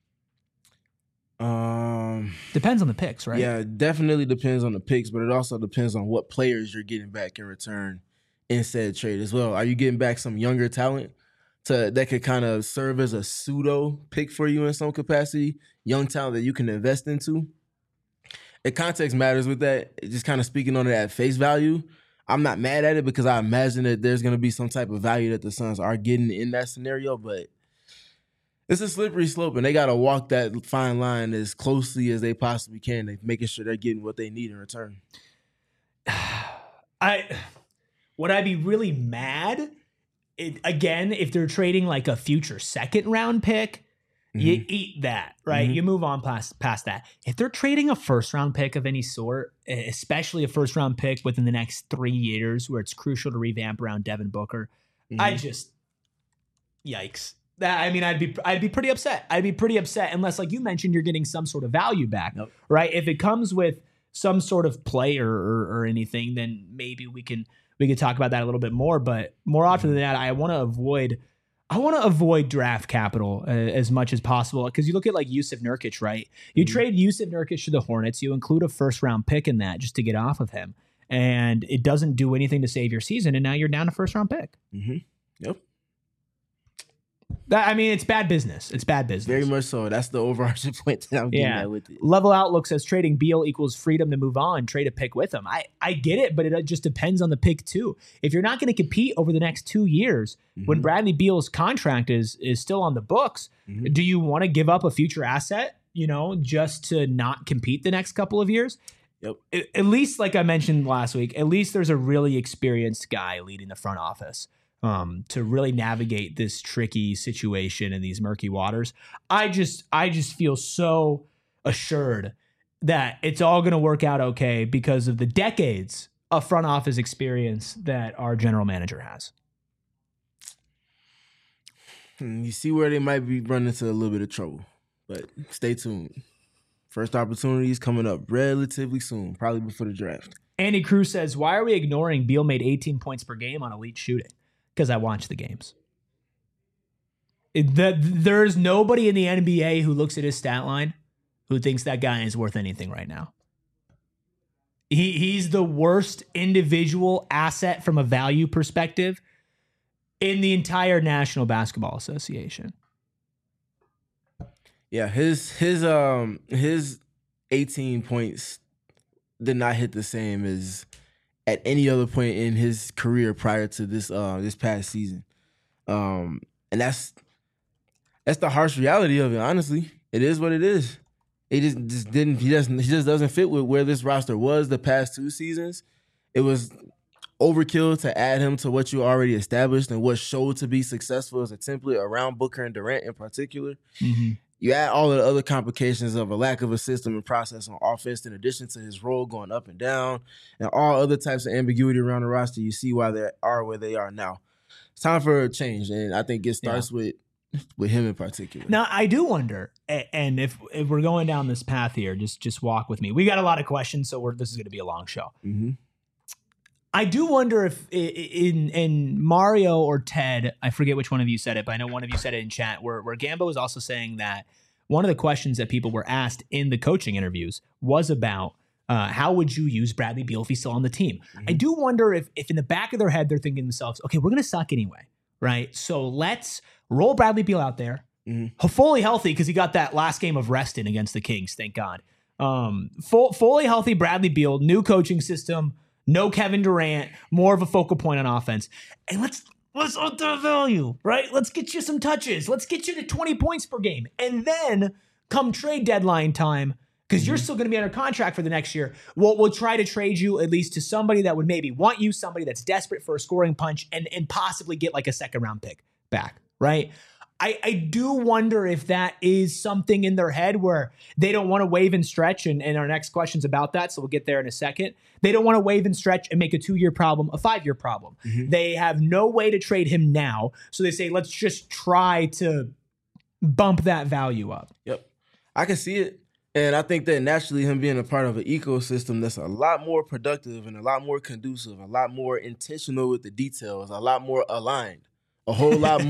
Depends on the picks, right?
Yeah, it definitely depends on the picks, but it also depends on what players you're getting back in return in said trade as well. Are you getting back some younger talent that could kind of serve as a pseudo pick for you in some capacity? Young talent that you can invest into? And context matters with that. Just kind of speaking on it at face value, I'm not mad at it because I imagine that there's going to be some type of value that the Suns are getting in that scenario, but it's a slippery slope, and they got to walk that fine line as closely as they possibly can, making sure they're getting what they need in return.
Would I be really mad? Again, if they're trading like a future second-round pick, you eat that, right? You move on past that. If they're trading a first-round pick of any sort, especially a first-round pick within the next 3 years where it's crucial to revamp around Devin Booker, yikes. I mean, I'd be pretty upset. I'd be pretty upset unless, like you mentioned, you're getting some sort of value back, right? If it comes with some sort of player or anything, then maybe we can talk about that a little bit more. But more often than that, I want to avoid draft capital as much as possible because you look at like Jusuf Nurkic, right? You trade Jusuf Nurkic to the Hornets, you include a first round pick in that just to get off of him. and it doesn't do anything to save your season, and now you're down a first-round pick.
Mm-hmm. Yep.
I mean, it's bad business. It's bad business.
Very much so. That's the overarching point that I'm getting at with it.
Level Outlook says trading Beal equals freedom to move on, trade a pick with him. I get it, but it just depends on the pick too. If you're not going to compete over the next 2 years, when Bradley Beal's contract is still on the books, do you want to give up a future asset, just to not compete the next couple of years?
Yep.
At least, like I mentioned last week, at least there's a really experienced guy leading the front office. To really navigate this tricky situation in these murky waters. I just feel so assured that it's all going to work out okay because of the decades of front office experience that our general manager has.
You see where they might be running into a little bit of trouble, but stay tuned. First opportunities coming up relatively soon, probably before the draft.
Andy Cruz says, why are we ignoring Beal made 18 points per game on elite shooting? Because I watch the games. There's nobody in the NBA who looks at his stat line who thinks that guy is worth anything right now. He's the worst individual asset from a value perspective in the entire National Basketball Association.
Yeah, his 18 points did not hit the same as at any other point in his career prior to this past season. And that's the harsh reality of it, honestly. It is what it is. He just doesn't fit with where this roster was the past 2 seasons. It was overkill to add him to what you already established and what showed to be successful as a template around Booker and Durant in particular. Mm-hmm. You add all of the other complications of a lack of a system and process on offense in addition to his role going up and down and all other types of ambiguity around the roster. You see why they are where they are now. It's time for a change, and I think it starts with him in particular.
Now, I do wonder, and if we're going down this path here, just walk with me. We got a lot of questions, so this is going to be a long show. Mm-hmm. I do wonder if in Mario or Ted, I forget which one of you said it, but I know one of you said it in chat, where Gambo was also saying that one of the questions that people were asked in the coaching interviews was about how would you use Bradley Beal if he's still on the team? Mm-hmm. I do wonder if in the back of their head, they're thinking to themselves, okay, we're going to suck anyway, right? So let's roll Bradley Beal out there, fully healthy because he got that last game of rest in against the Kings, thank God. Fully healthy Bradley Beal, new coaching system, no Kevin Durant, more of a focal point on offense. And let's up the value, right? Let's get you some touches. Let's get you to 20 points per game. And then come trade deadline time, because you're still going to be under contract for the next year, we'll try to trade you at least to somebody that would maybe want you, somebody that's desperate for a scoring punch, and possibly get like a second-round pick back, right? I do wonder if that is something in their head where they don't want to wave and stretch, and our next question's about that, so we'll get there in a second. They don't want to wave and stretch and make a 2-year problem a 5-year problem. Mm-hmm. They have no way to trade him now, so they say, let's just try to bump that value up.
Yep. I can see it, and I think that naturally him being a part of an ecosystem that's a lot more productive and a lot more conducive, a lot more intentional with the details, a lot more aligned, a whole lot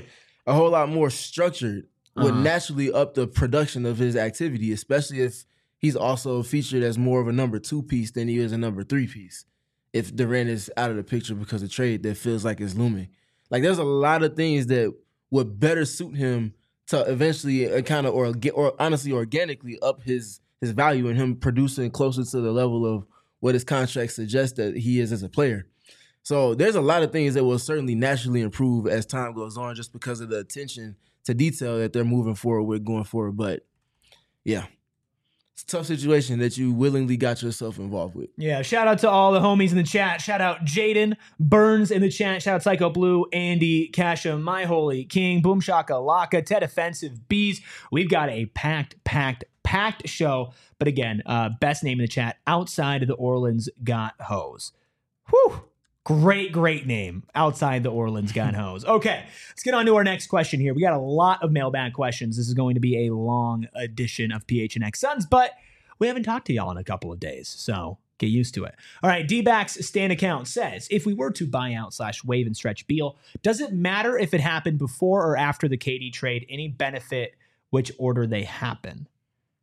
more structured would naturally up the production of his activity, especially if he's also featured as more of a number 2 piece than he is a number 3 piece. If Durant is out of the picture because of trade that feels like it's looming. Like there's a lot of things that would better suit him to eventually kind of or honestly organically up his value and him producing closer to the level of what his contract suggests that he is as a player. So there's a lot of things that will certainly naturally improve as time goes on just because of the attention to detail that they're moving forward with going forward. But, yeah, it's a tough situation that you willingly got yourself involved with.
Yeah, shout out to all the homies in the chat. Shout out Jaden Burns in the chat. Shout out Psycho Blue, Andy, Kasha, My Holy King, Boom Shaka, Laka, Ted Offensive, Bees. We've got a packed show. But again, best name in the chat, Outside of the Orleans Got Hose. Whew. Great name, Outside the Orleans Got Hose. Okay, let's get on to our next question here. We got a lot of mailbag questions. This is going to be a long edition of PHNX Suns, but we haven't talked to y'all in a couple of days, so get used to it. All right, D-Backs Stan account says, if we were to buy out / wave and stretch Beal, does it matter if it happened before or after the KD trade? Any benefit which order they happen?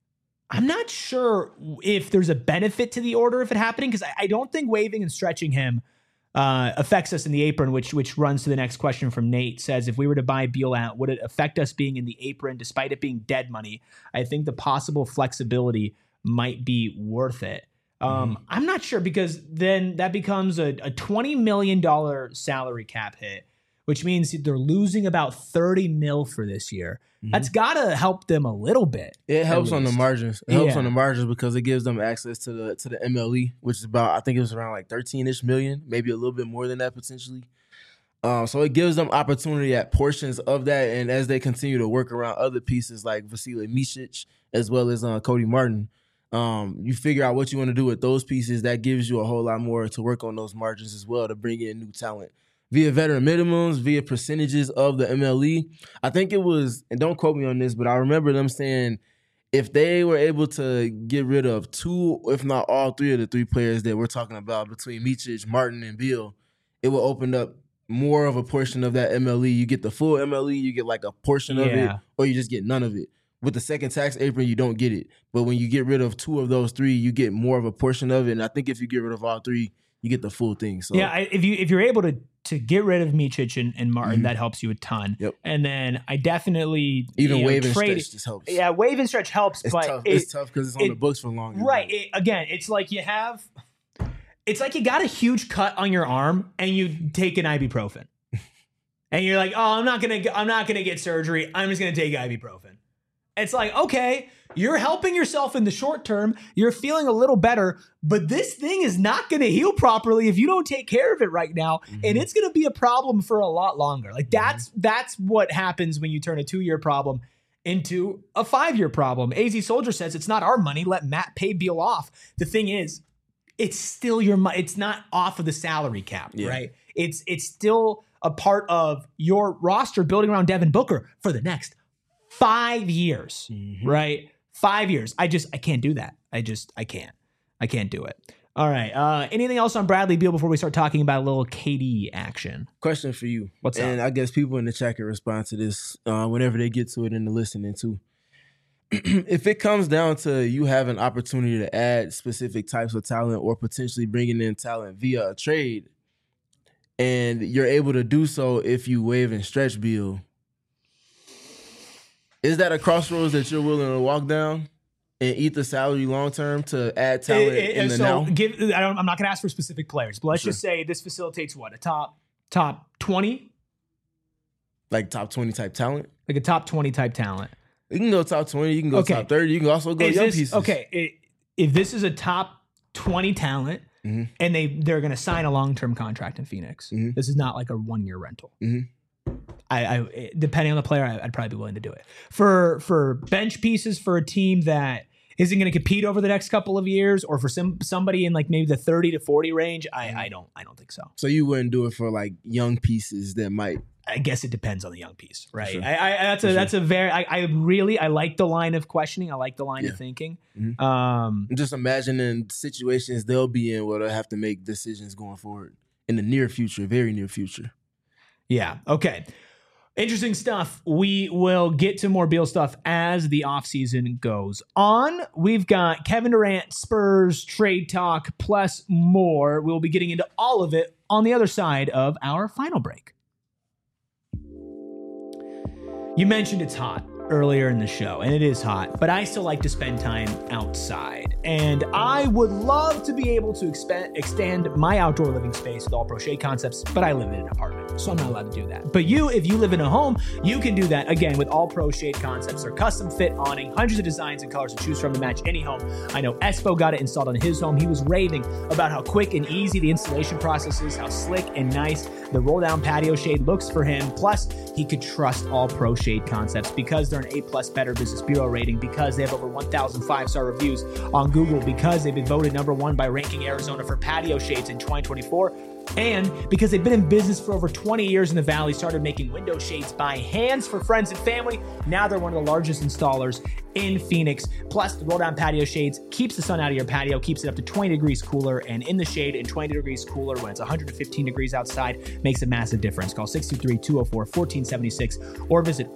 I'm not sure if there's a benefit to the order of it happening, because I don't think waiving and stretching him affects us in the apron, which runs to the next question from Nate. Says, if we were to buy Beal out, would it affect us being in the apron despite it being dead money? I think the possible flexibility might be worth it. I'm not sure, because then that becomes a $20 million salary cap hit, which means they're losing about $30 million for this year. That's got to help them a little bit.
It helps on the margins. It helps on the margins because it gives them access to the MLE, which is about, I think it was around like 13-ish million, maybe a little bit more than that potentially. So it gives them opportunity at portions of that, and as they continue to work around other pieces like Vasilije Micic as well as Cody Martin, you figure out what you want to do with those pieces. That gives you a whole lot more to work on those margins as well to bring in new talent via veteran minimums, via percentages of the MLE. I think it was, and don't quote me on this, but I remember them saying if they were able to get rid of 2, if not all 3 of the 3 players that we're talking about between Micic, Martin, and Beal, it will open up more of a portion of that MLE. You get the full MLE, you get like a portion of it, or you just get none of it. With the second tax apron, you don't get it. But when you get rid of 2 of those 3, you get more of a portion of it. And I think if you get rid of all 3, you get the full thing. So
yeah, if you're able to get rid of Micic and Martin, that helps you a ton.
Yep.
And then I definitely
even wave and stretch just helps.
Yeah, wave and stretch helps,
it's
but
tough. It's tough because it's on the books for long.
Right. It's like it's like you got a huge cut on your arm and you take an ibuprofen, and you're like, oh, I'm not gonna get surgery. I'm just gonna take ibuprofen. It's like, okay, you're helping yourself in the short term. You're feeling a little better, but this thing is not going to heal properly if you don't take care of it right now. And it's going to be a problem for a lot longer. Like that's what happens when you turn a 2-year problem into a 5-year problem. AZ Soldier says it's not our money. Let Matt pay Beal off. The thing is, it's still your money. It's not off of the salary cap, right? It's still a part of your roster building around Devin Booker for the next 5 years, right? 5 years. I can't do that. I can't do it. All right. Anything else on Bradley Beal before we start talking about a little KD action?
Question for you.
What's up?
And I guess people in the chat can respond to this whenever they get to it in the listening too. If it comes down to you have an opportunity to add specific types of talent or potentially bringing in talent via a trade, and you're able to do so if you waive and stretch Beal, is that a crossroads that you're willing to walk down and eat the salary long term to add talent in the now?
I'm not going to ask for specific players, but let's just say this facilitates what, a top 20,
like top 20 type talent,
like a top 20 type talent.
You can go top 20. You can go top 30. You can also go young pieces.
Okay, if this is a top 20 talent and they're going to sign a long term contract in Phoenix, this is not like a 1-year rental. I depending on the player, I'd probably be willing to do it. For bench pieces for a team that isn't going to compete over the next couple of years, or for somebody in like maybe the 30 to 40 range, I don't think so.
So you wouldn't do it for like young pieces that might.
I guess it depends on the young piece, right?
Sure.
That's a very I like the line of questioning. I like the line of thinking.
I'm just imagining situations they'll be in where they'll have to make decisions going forward in the near future, very near future.
Yeah. Okay. Interesting stuff. We will get to more Beal stuff as the offseason goes on. We've got Kevin Durant, Spurs, trade talk, plus more. We'll be getting into all of it on the other side of our final break. You mentioned it's hot earlier in the show, and it is hot, but I still like to spend time outside. And I would love to be able to extend my outdoor living space with All Pro Shade Concepts, but I live in an apartment, so I'm not allowed to do that. But if you live in a home, you can do that, again, with All Pro Shade Concepts. Their custom fit awning, hundreds of designs and colors to choose from to match any home. I know Espo got it installed on his home. He was raving about how quick and easy the installation process is, how slick and nice the roll-down patio shade looks for him. Plus, he could trust All Pro Shade Concepts because they're an A+ Better Business Bureau rating, because they have over 1,000 5-star reviews on Google, because they've been voted #1 by Ranking Arizona for patio shades in 2024. And because they've been in business for over 20 years in the Valley, started making window shades by hands for friends and family. Now they're one of the largest installers in Phoenix. Plus, the roll-down patio shades keeps the sun out of your patio, keeps it up to 20 degrees cooler, and in the shade and 20 degrees cooler when it's 115 degrees outside makes a massive difference. Call 623-204-1476 or visit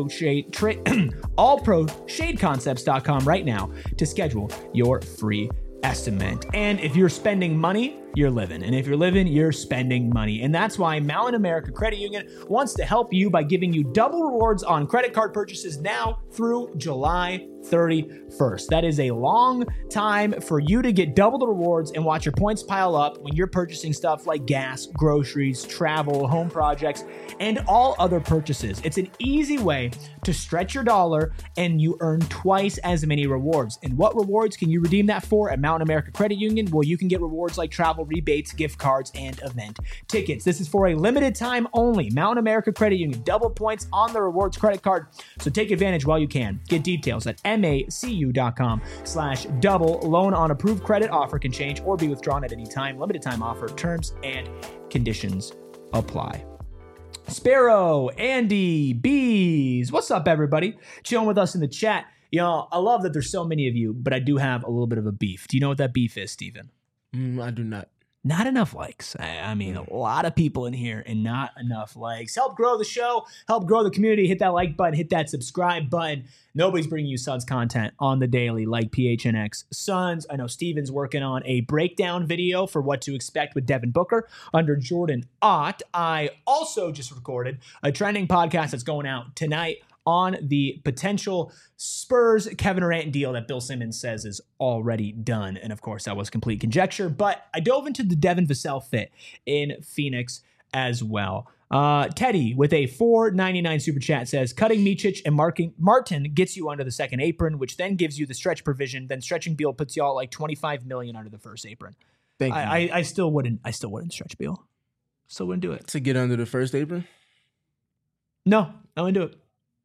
allproshadeconcepts.com right now to schedule your free estimate. And if you're spending money, you're living. And if you're living, you're spending money. And that's why Mountain America Credit Union wants to help you by giving you double rewards on credit card purchases now through July 31st. That is a long time for you to get double the rewards and watch your points pile up when you're purchasing stuff like gas, groceries, travel, home projects, and all other purchases. It's an easy way to stretch your dollar and you earn twice as many rewards. And what rewards can you redeem that for at Mountain America Credit Union? Well, you can get rewards like travel rebates, gift cards, and event tickets. This is for a limited time only. Mountain America Credit Union, double points on the rewards credit card. So take advantage while you can. Get details at macu.com/double. Loan on approved credit. Offer can change or be withdrawn at any time. Limited time offer. Terms and conditions apply. Sparrow, Andy, Bees. What's up, everybody? Chilling with us in the chat. You know, I love that there's so many of you, but I do have a little bit of a beef. Do you know what that beef is, Steven?
I do not.
Not enough likes. I mean, a lot of people in here and not enough likes. Help grow the show. Help grow the community. Hit that like button. Hit that subscribe button. Nobody's bringing you Suns content on the daily like PHNX Suns. I know Steven's working on a breakdown video for what to expect with Devin Booker under Jordan Ott. I also just recorded a trending podcast that's going out tonight on the potential Spurs Kevin Durant deal that Bill Simmons says is already done. And of course, that was complete conjecture, but I dove into the Devin Vassell fit in Phoenix as well. Teddy with a $4.99 super chat says, cutting Micic and Martin gets you under the second apron, which then gives you the stretch provision. Then stretching Beal puts you all like $25 million under the first apron.
Thank you.
I still wouldn't stretch Beal. Still wouldn't do it.
To get under the first apron?
No, I wouldn't do it.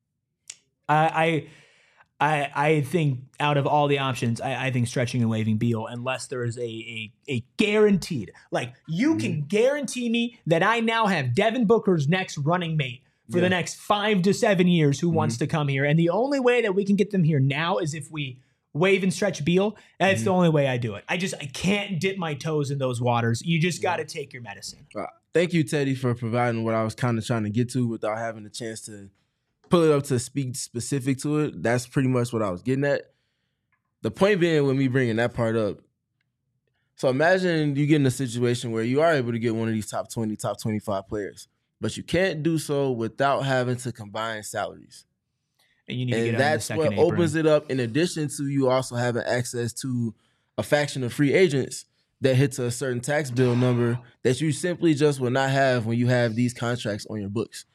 I think out of all the options, I think stretching and waiving Beal, unless there is a guaranteed, like you can guarantee me that I now have Devin Booker's next running mate for the next 5 to 7 years who wants to come here. And the only way that we can get them here now is if we waive and stretch Beal. And it's the only way I do it. I can't dip my toes in those waters. You just got to take your medicine.
Thank you, Teddy, for providing what I was kind of trying to get to without having a chance to pull it up to speak specific to it. That's pretty much what I was getting at. The point being with me bringing that part up, so imagine you get in a situation where you are able to get one of these top 20, top 25 players, but you can't do so without having to combine salaries.
And you need to get
that's
on the second
what opens it up, in addition to you also having access to a faction of free agents that hits a certain tax bill number that you simply just will not have when you have these contracts on your books.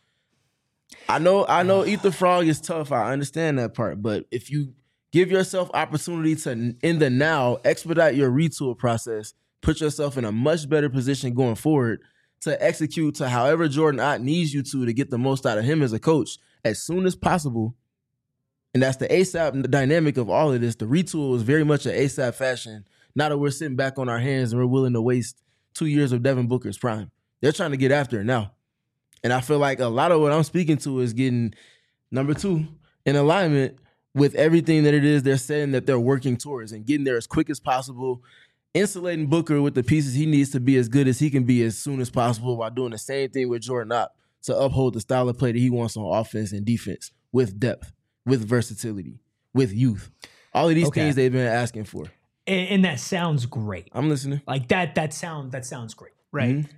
I know Eat the Frog is tough. I understand that part. But if you give yourself opportunity to, in the now, expedite your retool process, put yourself in a much better position going forward to execute to however Jordan Ott needs you to get the most out of him as a coach as soon as possible. And that's the ASAP dynamic of all of this. The retool is very much an ASAP fashion. Now that we're sitting back on our hands and we're willing to waste 2 years of Devin Booker's prime. They're trying to get after it now. And I feel like a lot of what I'm speaking to is getting, number two, in alignment with everything that it is they're saying that they're working towards and getting there as quick as possible, insulating Booker with the pieces he needs to be as good as he can be as soon as possible while doing the same thing with Jordan Ott to uphold the style of play that he wants on offense and defense with depth, with versatility, with youth. All of these things they've been asking for.
And that sounds great.
I'm listening.
Like that sounds great, right? Mm-hmm.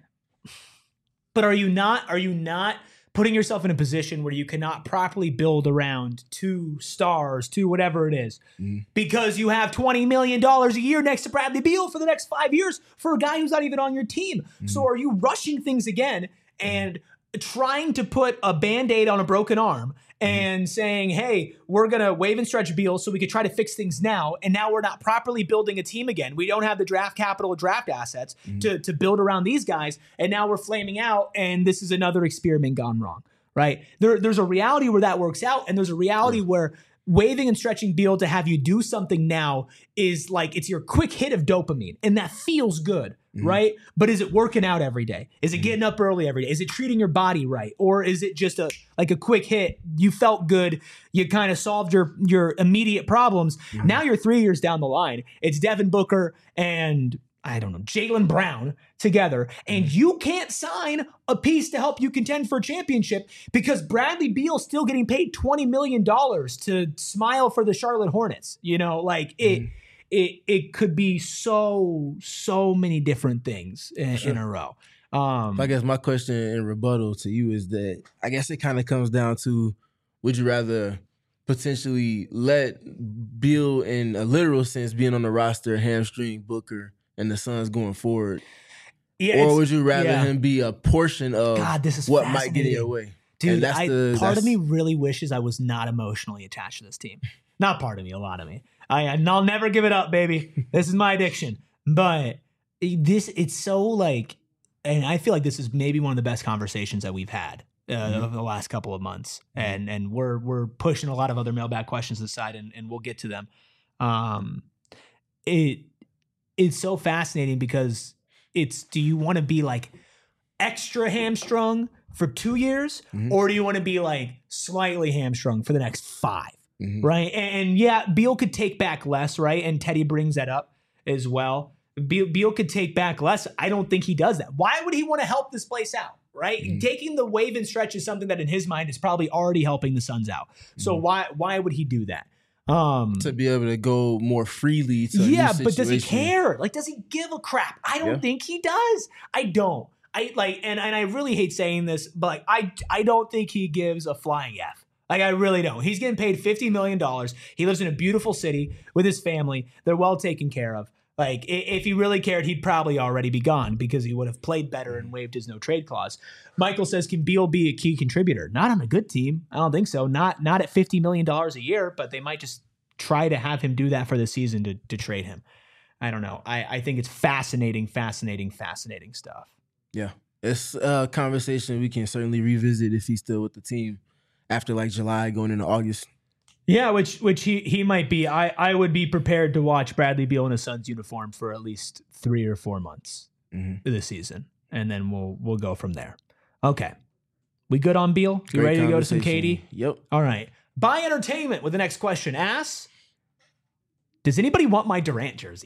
But are you not putting yourself in a position where you cannot properly build around 2 stars, 2 whatever it is, because you have $20 million a year next to Bradley Beal for the next 5 years for a guy who's not even on your team? So are you rushing things again and trying to put a Band-Aid on a broken arm and saying, hey, we're going to waive and stretch Beal so we could try to fix things now, and now we're not properly building a team again. We don't have the draft capital or draft assets to build around these guys, and now we're flaming out, and this is another experiment gone wrong, right? There's a reality where that works out, and there's a reality where waiving and stretching Beal to have you do something now is like it's your quick hit of dopamine, and that feels good, right? But is it working out every day? Is it getting up early every day? Is it treating your body right? Or is it just a quick hit? You felt good. You kind of solved your immediate problems. Now you're 3 years down the line. It's Devin Booker and I don't know, Jaylen Brown together, and you can't sign a piece to help you contend for a championship because Bradley Beal's still getting paid $20 million to smile for the Charlotte Hornets. You know, like it could be so many different things in a row.
I guess my question in rebuttal to you is that I guess it kind of comes down to, would you rather potentially let Beal, in a literal sense, being on the roster, hamstring Booker and the Suns going forward?
Yeah,
or would you rather him be a portion of what might get in your way?
Dude, part of me really wishes I was not emotionally attached to this team. Not part of me, a lot of me. I'll never give it up, baby. This is my addiction. But it's so like, and I feel like this is maybe one of the best conversations that we've had over the last couple of months. And we're pushing a lot of other mailbag questions aside, and we'll get to them. It's so fascinating because do you want to be like extra hamstrung for 2 years, or do you want to be like slightly hamstrung for the next 5? Right. And yeah, Beal could take back less, right? And Teddy brings that up as well. Beal could take back less. I don't think he does that. Why would he want to help this place out? Right. Taking the wave and stretch is something that in his mind is probably already helping the Suns out. So why would he do that?
To be able to go more freely to
but does he care? Like, does he give a crap? I don't think he does. I don't. And I really hate saying this, but like, I don't think he gives a flying F. Like, I really don't. He's getting paid $50 million. He lives in a beautiful city with his family. They're well taken care of. Like, if he really cared, he'd probably already be gone because he would have played better and waived his no trade clause. Michael says, can Beal be a key contributor? Not on a good team. I don't think so. Not at $50 million a year, but they might just try to have him do that for the season to trade him. I don't know. I think it's fascinating stuff. Yeah.
It's a conversation we can certainly revisit if he's still with the team after like July going into August.
Yeah, which he might be. I would be prepared to watch Bradley Beal in a Suns uniform for at least 3 or 4 months this season, and then we'll go from there. Okay, we good on Beal? You ready to go to some KD?
Yep.
All right. Buy entertainment with the next question. Does anybody want my Durant jersey?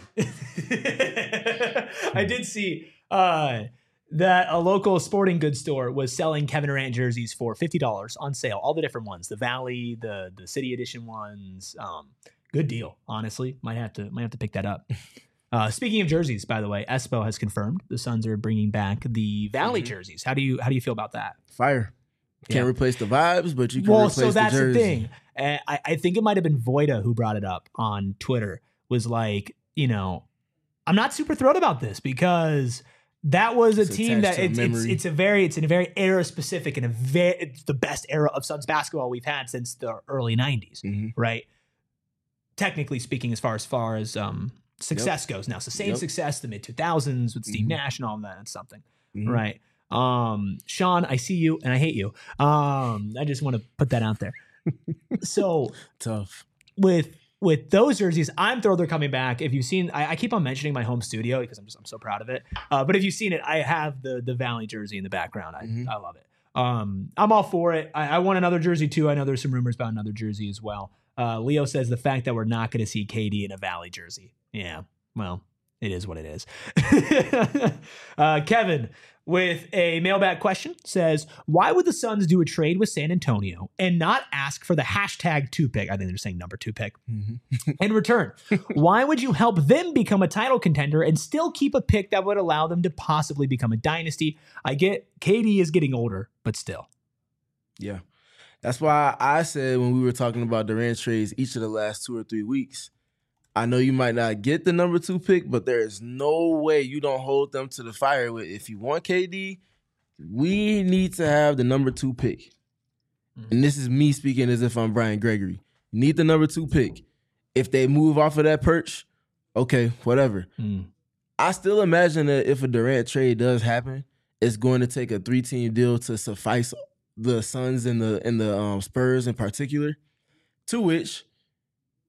I did see that a local sporting goods store was selling Kevin Durant jerseys for $50 on sale. All the different ones, the Valley, the City Edition ones. Good deal, honestly. Might have to pick that up. Speaking of jerseys, by the way, Espo has confirmed the Suns are bringing back the Valley jerseys. How do you feel about that?
Fire. Can't replace the vibes, but you can replace the jersey. Well, so that's the thing.
I think it might have been Voida who brought it up on Twitter. Was like, I'm not super thrilled about this because that was a team that it's a very era specific and it's the best era of Suns basketball we've had since the early 90s, right? Technically speaking, as far as success goes. Now it's the same success the mid 2000s with Steve Nash and all that. That's something, right? Sean, I see you and I hate you. I just want to put that out there. So
tough
with those jerseys. I'm thrilled they're coming back. If you've seen, I keep on mentioning my home studio because I'm so proud of it. But if you've seen it, I have the Valley jersey in the background. I love it. I'm all for it. I want another jersey too. I know there's some rumors about another jersey as well. Leo says the fact that we're not going to see KD in a Valley jersey. Yeah, well, it is what it is. Kevin, with a mailbag question, says, why would the Suns do a trade with San Antonio and not ask for the hashtag 2 pick? I think they're saying number 2 pick. In return, why would you help them become a title contender and still keep a pick that would allow them to possibly become a dynasty? I get KD is getting older, but still.
Yeah. That's why I said when we were talking about Durant trades each of the last 2 or 3 weeks, I know you might not get the number 2 pick, but there is no way you don't hold them to the fire with, if you want KD, we need to have the number 2 pick. And this is me speaking as if I'm Brian Gregory. You need the number 2 pick. If they move off of that perch, okay, whatever. I still imagine that if a Durant trade does happen, it's going to take a 3-team deal to suffice the Suns and the Spurs in particular, to which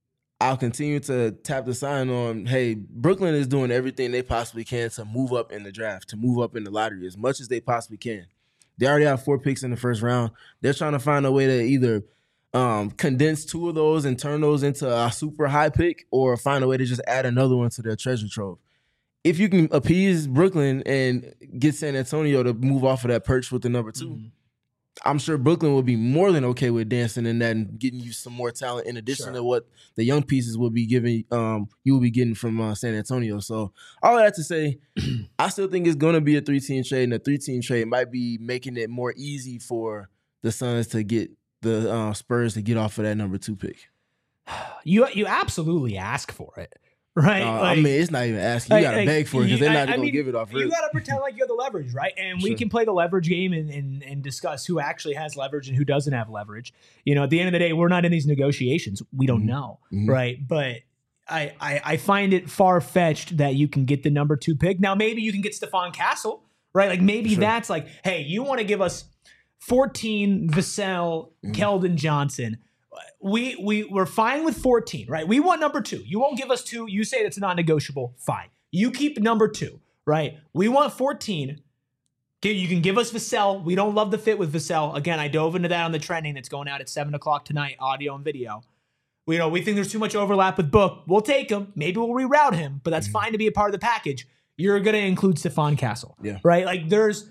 I'll continue to tap the sign on, hey, Brooklyn is doing everything they possibly can to move up in the draft, to move up in the lottery as much as they possibly can. They already have 4 picks in the first round. They're trying to find a way to either condense 2 of those and turn those into a super high pick, or find a way to just add another one to their treasure trove. If you can appease Brooklyn and get San Antonio to move off of that perch with the number 2, I'm sure Brooklyn will be more than okay with dancing in that and getting you some more talent in addition to what the young pieces will be giving. You will be getting from San Antonio. So all of that to say, I still think it's going to be a 3-team trade, and a 3-team trade might be making it more easy for the Suns to get the Spurs to get off of that number 2 pick.
You absolutely ask for it. Right,
I mean, it's not even asking. You got to beg for it because they're not going to give it off.
You got to pretend like you have the leverage, right? And we can play the leverage game and discuss who actually has leverage and who doesn't have leverage. You know, at the end of the day, we're not in these negotiations. We don't know, right? But I find it far-fetched that you can get the number 2 pick. Now, maybe you can get Stephon Castle, right? Like maybe that's like, hey, you want to give us 14 Vassell, Keldon Johnson. We're fine with 14, right? We want number 2. You won't give us 2. You say that's non-negotiable. Fine. You keep number 2, right? We want 14. You can give us Vassell. We don't love the fit with Vassell. Again, I dove into that on the trending that's going out at 7 o'clock tonight, audio and video. We think there's too much overlap with Book. We'll take him. Maybe we'll reroute him, but that's fine to be a part of the package. You're going to include Stephon Castle, right? Like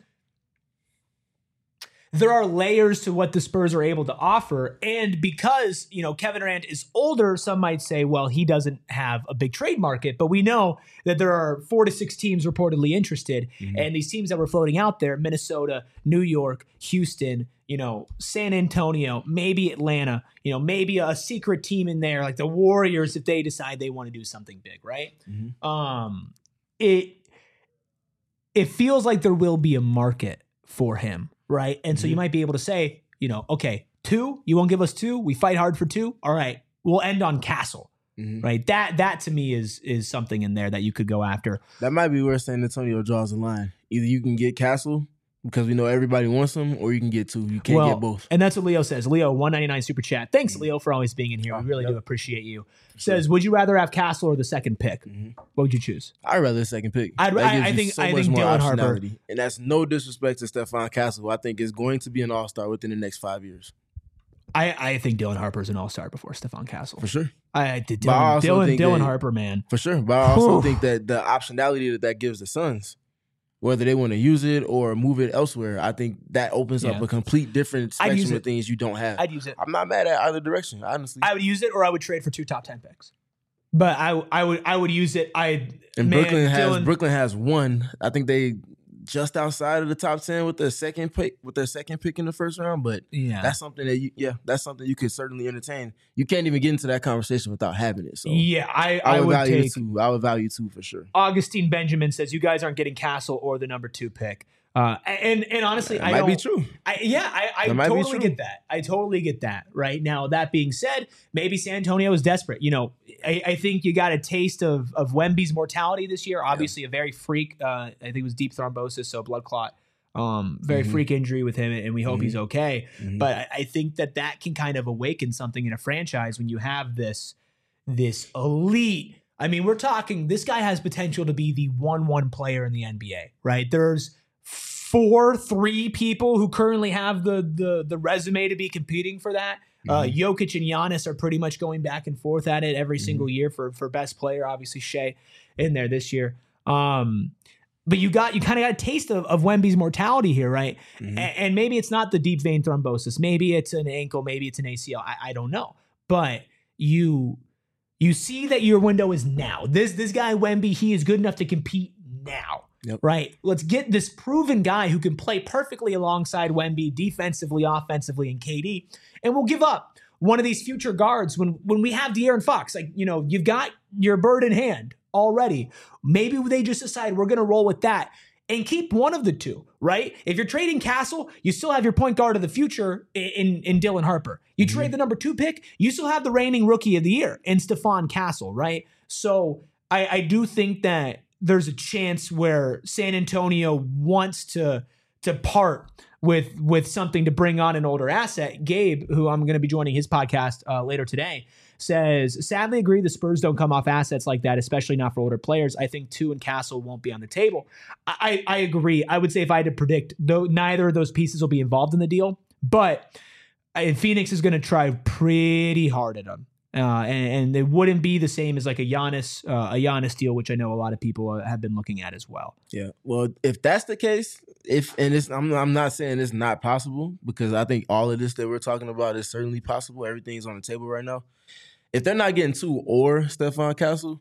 there are layers to what the Spurs are able to offer. And because, Kevin Durant is older, some might say, well, he doesn't have a big trade market. But we know that there are 4 to 6 teams reportedly interested. And these teams that were floating out there, Minnesota, New York, Houston, San Antonio, maybe Atlanta, maybe a secret team in there, like the Warriors, if they decide they want to do something big, right? It feels like there will be a market for him. Right. And so you might be able to say, okay, 2, you won't give us 2. We fight hard for 2. All right. We'll end on Castle. Right. That to me is something in there that you could go after.
That might be where San Antonio draws the line. Either you can get Castle because we know everybody wants him, or you can get 2. You can't get both.
And that's what Leo says. Leo, 199 super chat. Thanks, Leo, for always being in here. We really do appreciate you. Says, would you rather have Castle or the second pick? What would you choose?
I'd rather the second pick.
I think Dylan Harper.
And that's no disrespect to Stephon Castle. I think is going to be an all-star within the next 5 years.
I think Dylan Harper is an all-star before Stephon Castle.
For sure.
Dylan Harper, man.
For sure. But I also think that the optionality that gives the Suns, whether they want to use it or move it elsewhere, I think that opens up a complete different spectrum of things you don't have.
I'd use it.
I'm not mad at either direction, honestly.
I would use it, or I would trade for 2 top 10 picks. But I would use it.
Brooklyn has 1. I think they just outside of the top 10 with their second pick in the first round. But that's something that that's something you could certainly entertain. You can't even get into that conversation without having it. So I would value 2. I would value 2 for sure.
Augustine Benjamin says you guys aren't getting Castle or the number 2 pick. And honestly,
that might be true.
I totally get that. I totally get that. Right now, that being said, maybe San Antonio is desperate. I think you got a taste of Wemby's mortality this year. Obviously, a very freak. I think it was deep thrombosis, so blood clot. Very freak injury with him, and we hope he's okay. But I think that can kind of awaken something in a franchise when you have this elite. I mean, we're talking. This guy has potential to be the 1-1 player in the NBA. Right? There's 3 people who currently have the resume to be competing for that. Jokic and Giannis are pretty much going back and forth at it every single year for best player. Obviously, Shea in there this year. But you kind of got a taste of Wemby's mortality here, right? And maybe it's not the deep vein thrombosis. Maybe it's an ankle. Maybe it's an ACL. I don't know. But you see that your window is now. This guy Wemby, he is good enough to compete now. Right. Let's get this proven guy who can play perfectly alongside Wemby defensively, offensively, and KD. And we'll give up one of these future guards when we have De'Aaron Fox. Like, you've got your bird in hand already. Maybe they just decide we're going to roll with that and keep one of the 2, right? If you're trading Castle, you still have your point guard of the future in Dylan Harper. You trade the number 2 pick, you still have the reigning rookie of the year in Stephon Castle, right? So I do think that there's a chance where San Antonio wants to part with something to bring on an older asset. Gabe, who I'm going to be joining his podcast later today, says, sadly agree the Spurs don't come off assets like that, especially not for older players. I think Two and Castle won't be on the table. I agree. I would say if I had to predict, though, neither of those pieces will be involved in the deal, but Phoenix is going to try pretty hard at them. And it wouldn't be the same as like a Giannis deal, which I know a lot of people have been looking at as well.
Yeah. Well, if that's the case, I'm not saying it's not possible, because I think all of this that we're talking about is certainly possible. Everything's on the table right now. If they're not getting Two or Stephon Castle,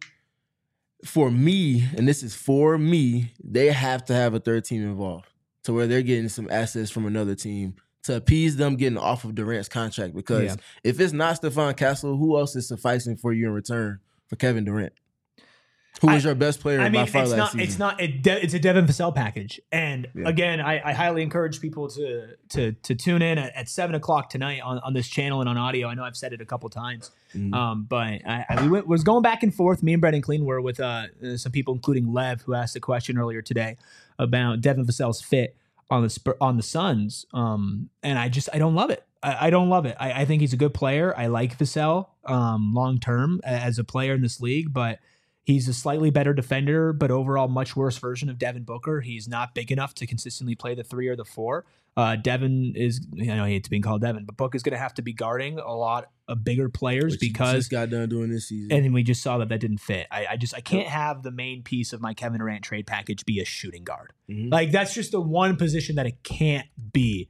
for me, and this is for me, they have to have a third team involved to where they're getting some assets from another team to appease them getting off of Durant's contract. Because if it's not Stephon Castle, who else is sufficing for you in return for Kevin Durant? Who was your best player by far last season?
It's a Devin Vassell package. And again, I highly encourage people to tune in at 7 o'clock tonight on this channel and on audio. I know I've said it a couple times. But we was going back and forth. Me and Brendan Clean were with some people, including Lev, who asked a question earlier today about Devin Vassell's fit on the Suns. And I don't love it. I don't love it. I think he's a good player. I like Vassell long term as a player in this league, but he's a slightly better defender, but overall much worse version of Devin Booker. He's not big enough to consistently play the 3 or the 4. Devin is, I hate being called Devin, but Book is going to have to be guarding a lot of bigger players because
he just got done doing this season.
And we just saw that didn't fit. I can't have the main piece of my Kevin Durant trade package be a shooting guard. Like, that's just the one position that it can't be.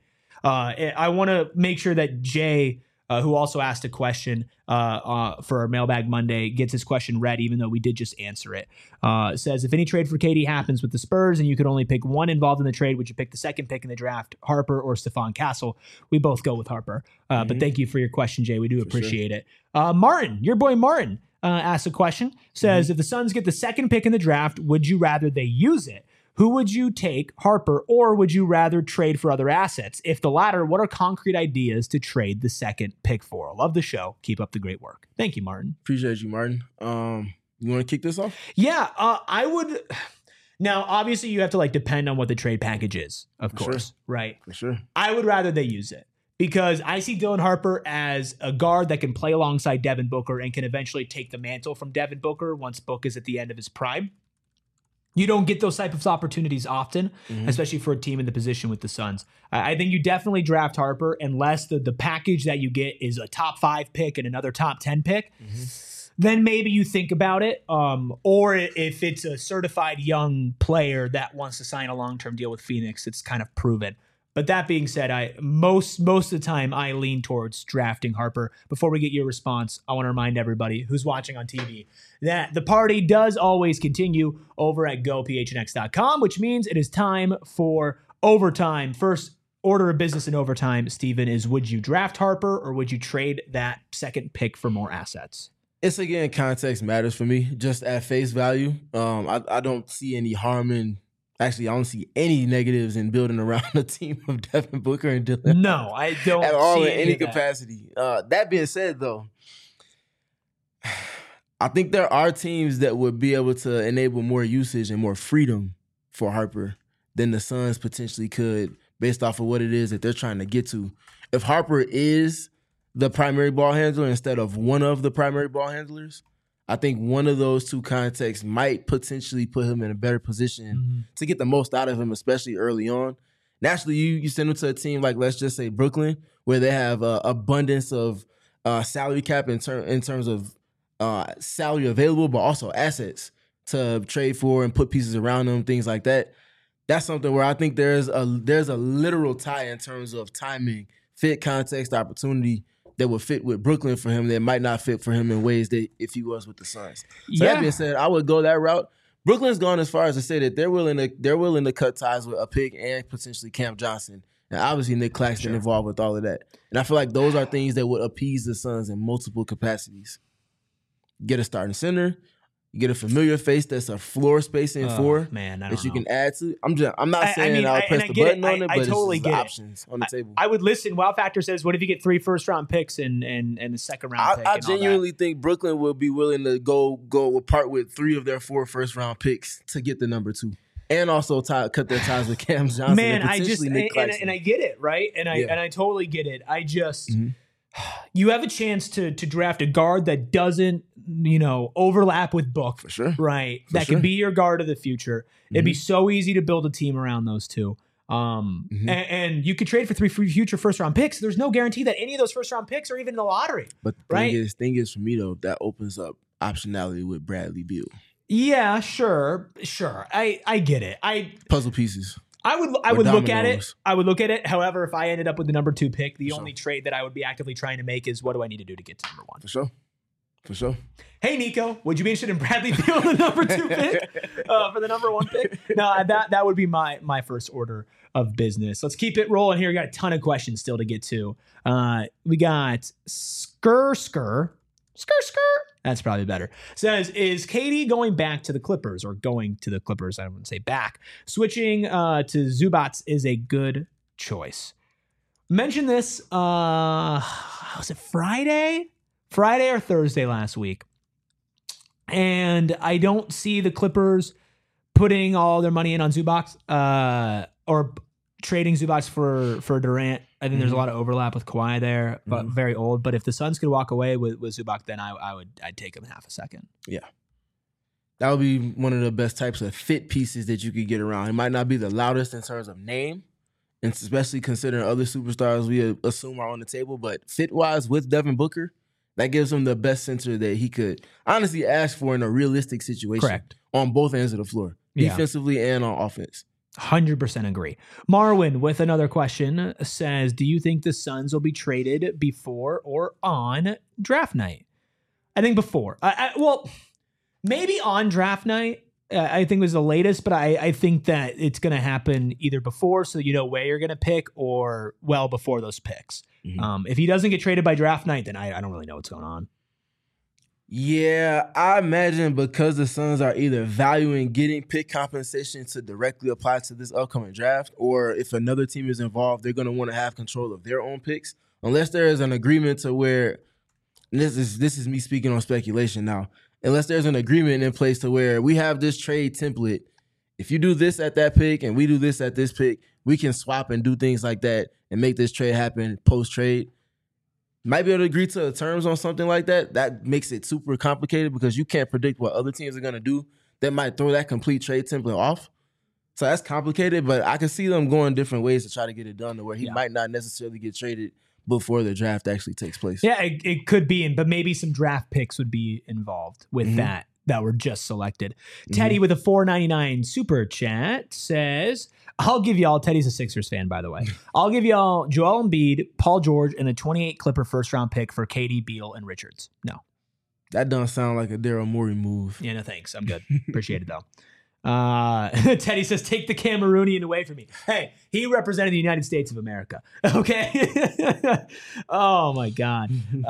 I want to make sure that Jay, who also asked a question for our Mailbag Monday, gets his question read, even though we did just answer it. Says, if any trade for KD happens with the Spurs and you could only pick one involved in the trade, would you pick the second pick in the draft, Harper or Stephon Castle? We both go with Harper. But thank you for your question, Jay. We do appreciate it. Martin, your boy Martin, asked a question. Says, if the Suns get the second pick in the draft, would you rather they use it? Who would you take, Harper, or would you rather trade for other assets? If the latter, what are concrete ideas to trade the second pick for? I love the show. Keep up the great work. Thank you, Martin.
Appreciate you, Martin. You want to kick this off?
Yeah, I would. Now, obviously, you have to depend on what the trade package is, of course, right?
For sure.
I would rather they use it because I see Dylan Harper as a guard that can play alongside Devin Booker and can eventually take the mantle from Devin Booker once Book is at the end of his prime. You don't get those type of opportunities often, especially for a team in the position with the Suns. I think you definitely draft Harper unless the package that you get is a top 5 pick and another top 10 pick. Then maybe you think about it. Or if it's a certified young player that wants to sign a long-term deal with Phoenix, it's kind of proven. But that being said, most of the time I lean towards drafting Harper. Before we get your response, I want to remind everybody who's watching on TV that the party does always continue over at gophnx.com, which means it is time for overtime. First order of business in overtime, Steven, is would you draft Harper or would you trade that second pick for more assets?
It's, again, context matters for me. Just at face value, I don't see any harm in. Actually, I don't see any negatives in building around a team of Devin Booker and Dylan.
No, I don't
at all
see
in any capacity. That being said, though, I think there are teams that would be able to enable more usage and more freedom for Harper than the Suns potentially could, based off of what it is that they're trying to get to. If Harper is the primary ball handler instead of one of the primary ball handlers, I think one of those two contexts might potentially put him in a better position to get the most out of him, especially early on. Naturally, you send him to a team like, let's just say, Brooklyn, where they have abundance of salary cap in terms of salary available, but also assets to trade for and put pieces around them, things like that. That's something where I think there's a literal tie in terms of timing, fit, context, opportunity that would fit with Brooklyn for him that might not fit for him in ways that if he was with the Suns. So that being said, I would go that route. Brooklyn's gone as far as to say that they're willing to cut ties with a pick and potentially Cam Johnson. And obviously Nick Claxton involved with all of that. And I feel like those are things that would appease the Suns in multiple capacities. Get a starting center. You get a familiar face that's a floor spacing four that you can add to. I'm not saying I'll press the button on it, but
totally
it's the options on the table.
I would listen. Wow Factor says, what if you get 3 first-round picks and the second-round pick?
I genuinely think Brooklyn will be willing to go part with 3 of their 4 first-round picks to get the number 2. And also cut their ties with Cam Johnson.
Man, and I get it, right? And I totally get it. I just you have a chance to draft a guard that doesn't, overlap with Book.
For sure.
Right.
For
That
sure.
could be your guard of the future. It'd be so easy to build a team around those two. And you could trade for 3 future first round picks. There's no guarantee that any of those first round picks are even in the lottery.
But the
Right.
thing is for me though, that opens up optionality with Bradley Beal.
Yeah, sure. I get it.
Puzzle pieces.
I would look at it.
dominoes.
I would look at it. However, if I ended up with the number 2 pick, the
For
only trade that I would be actively trying to make is what do I need to do to get to number 1?
For sure. For sure.
Hey, Nico, would you be interested in Bradley Beal, the number 2 pick for the number 1 pick? No, that would be my first order of business. Let's keep it rolling here. We got a ton of questions still to get to. We got Skr. That's probably better. Says, is KD going back to the Clippers or going to the Clippers? I wouldn't say back. Switching to Zubats is a good choice. Mentioned this, was it Friday or Thursday last week? And I don't see the Clippers putting all their money in on Zubac or trading Zubac for Durant. I think there's a lot of overlap with Kawhi there, but very old. But if the Suns could walk away with Zubac, then I'd take him in half a second.
Yeah. That would be one of the best types of fit pieces that you could get around. It might not be the loudest in terms of name, and especially considering other superstars we assume are on the table, but fit-wise with Devin Booker, that gives him the best center that he could honestly ask for in a realistic situation.
Correct.
On both ends of the floor,
Yeah.
defensively and on offense.
100% agree. Marwin with another question says, do you think the Suns will be traded before or on draft night? I think before. Well, maybe on draft night, I think was the latest, but I think that it's going to happen either before, so you know where you're going to pick, or well before those picks. If he doesn't get traded by draft night, then I don't really know what's going on.
Yeah, I imagine because the Suns are either valuing getting pick compensation to directly apply to this upcoming draft, or if another team is involved, they're going to want to have control of their own picks. Unless there is an agreement to where, and this is me speaking on speculation now, unless there's an agreement in place to where we have this trade template. If you do this at that pick and we do this at this pick, we can swap and do things like that and make this trade happen post-trade. Might be able to agree to terms on something like that. That makes it super complicated because you can't predict what other teams are going to do. That might throw that complete trade template off. So that's complicated, but I can see them going different ways to try to get it done to where he might not necessarily get traded before the draft actually takes place.
Yeah, it could be, but maybe some draft picks would be involved with that were just selected. Teddy with a $4.99 super chat says, I'll give y'all, Teddy's a Sixers fan, by the way. I'll give y'all Joel Embiid, Paul George, and a 28 Clipper first-round pick for KD, Beal, and Richards. No.
That doesn't sound like a Daryl Morey move.
Yeah, no thanks. I'm good. Appreciate it, though. Teddy says, take the Cameroonian away from me. Hey, he represented the United States of America. Okay? Oh, my God.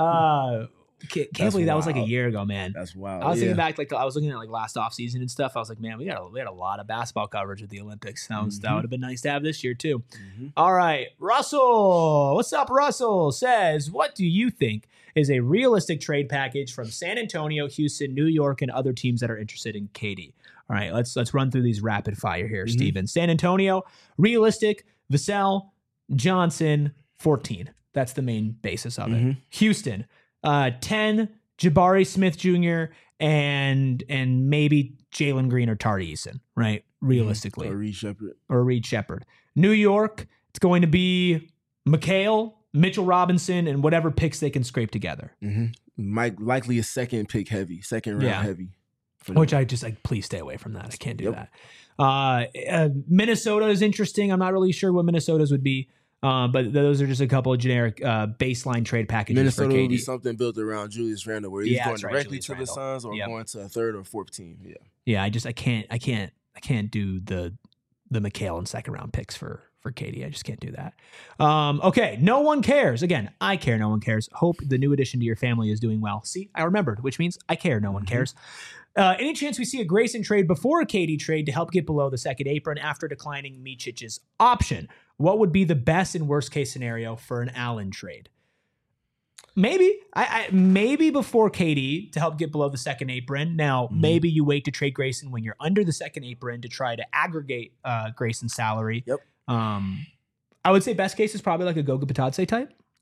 Can't believe that was like a year ago, man.
That's wild.
I was thinking back, I was looking at last off season and stuff. I was like, man, we had a lot of basketball coverage at the Olympics. That would have been nice to have this year too. All right, Russell, what's up? Russell says, what do you think is a realistic trade package from San Antonio, Houston, New York, and other teams that are interested in KD? All right, let's run through these rapid fire here, Steven. San Antonio, realistic, Vassell, Johnson, 14. That's the main basis of it. Houston, 10, Jabari Smith Jr. and maybe Jalen Green or Tari Eason, right? Realistically.
Or Reed Shepherd.
New York, it's going to be McHale, Mitchell Robinson, and whatever picks they can scrape together.
Likely a second round heavy.
Which I just please stay away from that. I can't do that. Minnesota is interesting. I'm not really sure what Minnesota's would be. But those are just a couple of generic baseline trade packages.
Minnesota
for KD.
will be something built around Julius Randle, where he's going directly to the Suns or going to a third or fourth team.
I can't do the McHale and second round picks for KD. I just can't do that. Okay, no one cares. Again, I care. No one cares. Hope the new addition to your family is doing well. See, I remembered, which means I care. No one cares. Any chance we see a Grayson trade before a KD trade to help get below the second apron after declining Micic's option? What would be the best and worst case scenario for an Allen trade? Maybe. Maybe before KD to help get below the second apron. Now, maybe you wait to trade Grayson when you're under the second apron to try to aggregate Grayson's salary.
Yep.
I would say best case is probably like a Goga Bitadze type.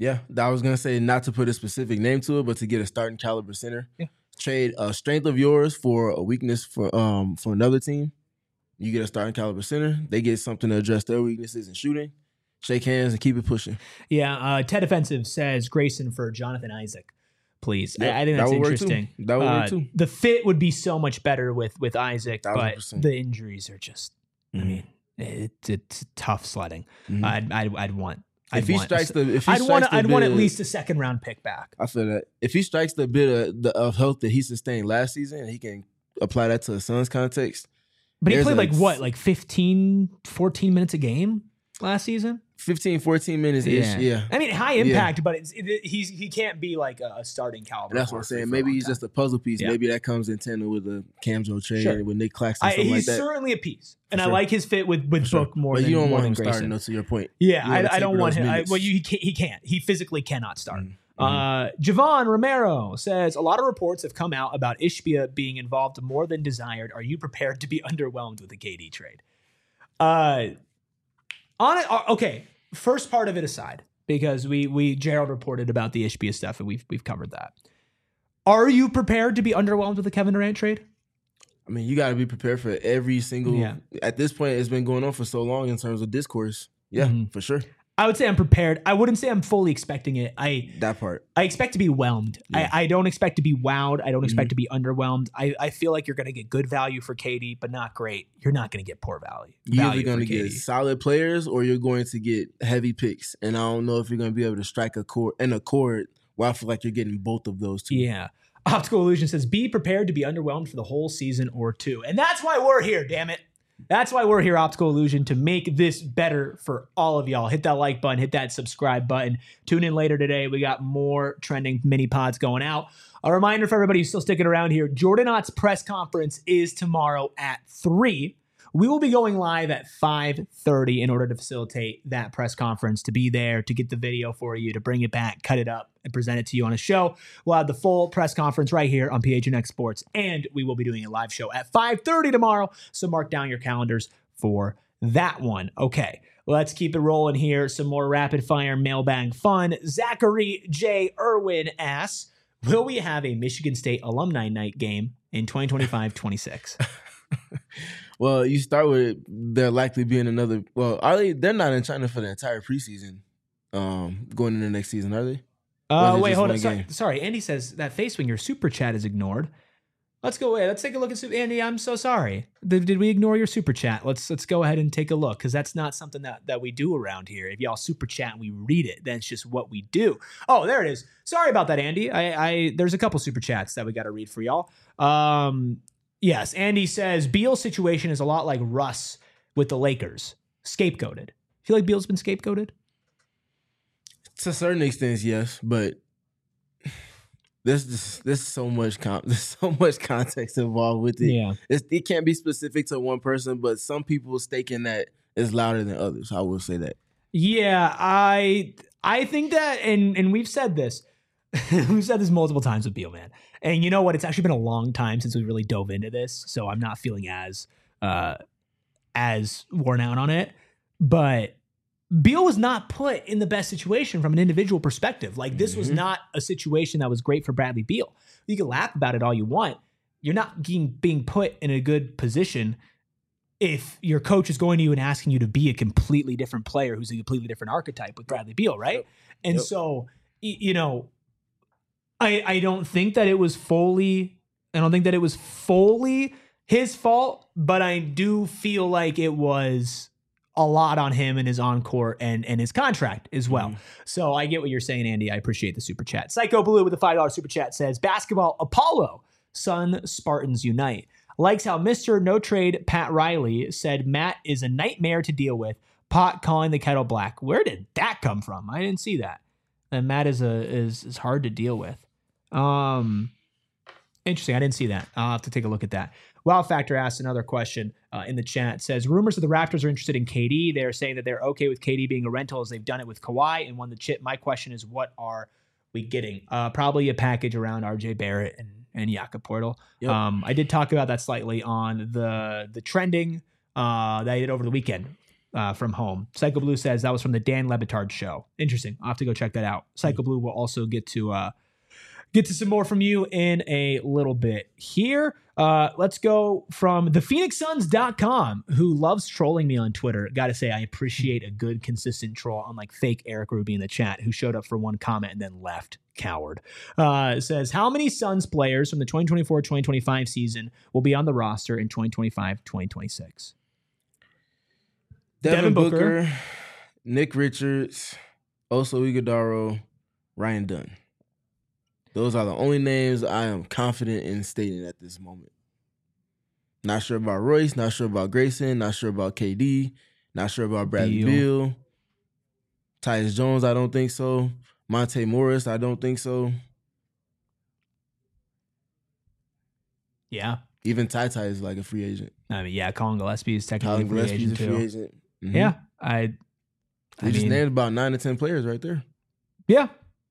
Yeah, I was gonna say not to put a specific name to it, but to get a starting caliber center.
Yeah.
Trade a strength of yours for a weakness for another team. You get a starting caliber center. They get something to address their weaknesses in shooting. Shake hands and keep it pushing.
Yeah, Ted Offensive says Grayson for Jonathan Isaac, please.
Yep,
I think that's
that would work
interesting.
too. That would work too.
The fit would be so much better with Isaac, but
1000%.
the injuries are just. I mean, it's tough sledding. I'd want.
I'd want
at least a second round pick back.
I feel that if he strikes the bit of health that he sustained last season, he can apply that to the Suns context.
But he played like 15, 14 minutes a game last season?
15, 14 minutes ish, yeah.
I mean, high impact, but he can't be like a starting caliber.
And that's what I'm saying. Maybe he's just a puzzle piece. Yeah. Maybe that comes in tandem with the Camzo trade with Nick Claxton, something like that.
He's certainly a piece. And I like his fit with Book more than Grayson. But you don't want him starting,
though, to your point.
Yeah, I don't want him. He can't. He physically cannot start. Javon Romero says, a lot of reports have come out about Ishbia being involved more than desired. Are you prepared to be underwhelmed with the KD trade? Okay, first part of it aside, because Gerald reported about the Ishbia stuff and we've covered that. Are you prepared to be underwhelmed with the Kevin Durant trade?
I mean, you got to be prepared for every single. Yeah. At this point, it's been going on for so long in terms of discourse. Yeah, for sure.
I would say I'm prepared. I wouldn't say I'm fully expecting it.
That part.
I expect to be whelmed. Yeah. I don't expect to be wowed. I don't expect to be underwhelmed. I feel like you're going to get good value for KD, but not great. You're not going to get poor value.
You're either going to get solid players or you're going to get heavy picks. And I don't know if you're going to be able to strike a chord where I feel like you're getting both of those two.
Yeah. Optical Illusion says, be prepared to be underwhelmed for the whole season or two. And that's why we're here, damn it. That's why we're here, Optical Illusion, to make this better for all of y'all. Hit that like button, hit that subscribe button. Tune in later today. We got more trending mini pods going out. A reminder for everybody who's still sticking around here, Jordan Ott's press conference is tomorrow at 3. We will be going live at 5:30 in order to facilitate that press conference, to be there, to get the video for you, to bring it back, cut it up, and present it to you on a show. We'll have the full press conference right here on PHNX Sports, and we will be doing a live show at 5:30 tomorrow, so mark down your calendars for that one. Okay, let's keep it rolling here. Some more rapid-fire mailbag fun. Zachary J. Irwin asks, will we have a Michigan State alumni night game in 2025-26?
Well, you start with there likely being another. Well, they're not in China for the entire preseason going into next season, are they?
Wait, hold on. Sorry, Andy says that Facewinger super chat is ignored. Let's go away. Let's take a look at Andy. I'm so sorry. Did we ignore your super chat? Let's go ahead and take a look, because that's not something that we do around here. If y'all super chat and we read it, then it's just what we do. Oh, there it is. Sorry about that, Andy. There's a couple super chats that we got to read for y'all. Yes, Andy says Beal's situation is a lot like Russ with the Lakers. Scapegoated. Feel like Beal's been scapegoated?
To a certain extent, yes, but there's so much context involved with it.
Yeah,
it can't be specific to one person, but some people staking that is louder than others. I will say that.
Yeah, I think that, and we've said this. We've said this multiple times with Beal, man. And you know what? It's actually been a long time since we really dove into this, so I'm not feeling as worn out on it. But Beal was not put in the best situation from an individual perspective. Like, this was not a situation that was great for Bradley Beal. You can laugh about it all you want. You're not being put in a good position if your coach is going to you and asking you to be a completely different player who's a completely different archetype with Bradley Beal, right? Yep. And so, you know, I don't think that it was fully his fault, but I do feel like it was a lot on him and his on-court and his contract as well. So I get what you're saying, Andy. I appreciate the super chat. Psycho Blue with a $5 super chat says, basketball Apollo, Sun Spartans unite. Likes how Mr. No Trade Pat Riley said Matt is a nightmare to deal with. Pot calling the kettle black. Where did that come from? I didn't see that. And Matt is hard to deal with. Interesting. I didn't see that. I'll have to take a look at that. Wow Factor asked another question in the chat. Says, rumors of the Raptors are interested in KD. They're saying that they're okay with KD being a rental as they've done it with Kawhi and won the chip. My question is, what are we getting? Probably a package around RJ Barrett and Jakob Poeltl. Yep. I did talk about that slightly on the trending that I did over the weekend. from home. Psycho Blue says that was from the Dan Le Batard show. Interesting. I'll have to go check that out. Psycho Blue will also get to some more from you in a little bit here. Let's go from thephoenixsuns.com, who loves trolling me on Twitter. Got to say, I appreciate a good, consistent troll, unlike fake Eric Ruby in the chat, who showed up for one comment and then left. Coward. Says, how many Suns players from the 2024-2025 season will be on the roster in 2025-2026?
Devin Booker, Nick Richards, Oso Iguodala, Ryan Dunn. Those are the only names I am confident in stating at this moment. Not sure about Royce, not sure about Grayson, not sure about KD, not sure about Bradley Beal. Tyus Jones, I don't think so. Monte Morris, I don't think so.
Yeah.
Even Ty is like a free agent.
I mean, yeah, Colin Gillespie is technically a free agent too.
Mm-hmm.
Yeah.
We just named about 9 to 10 players right there.
Yeah.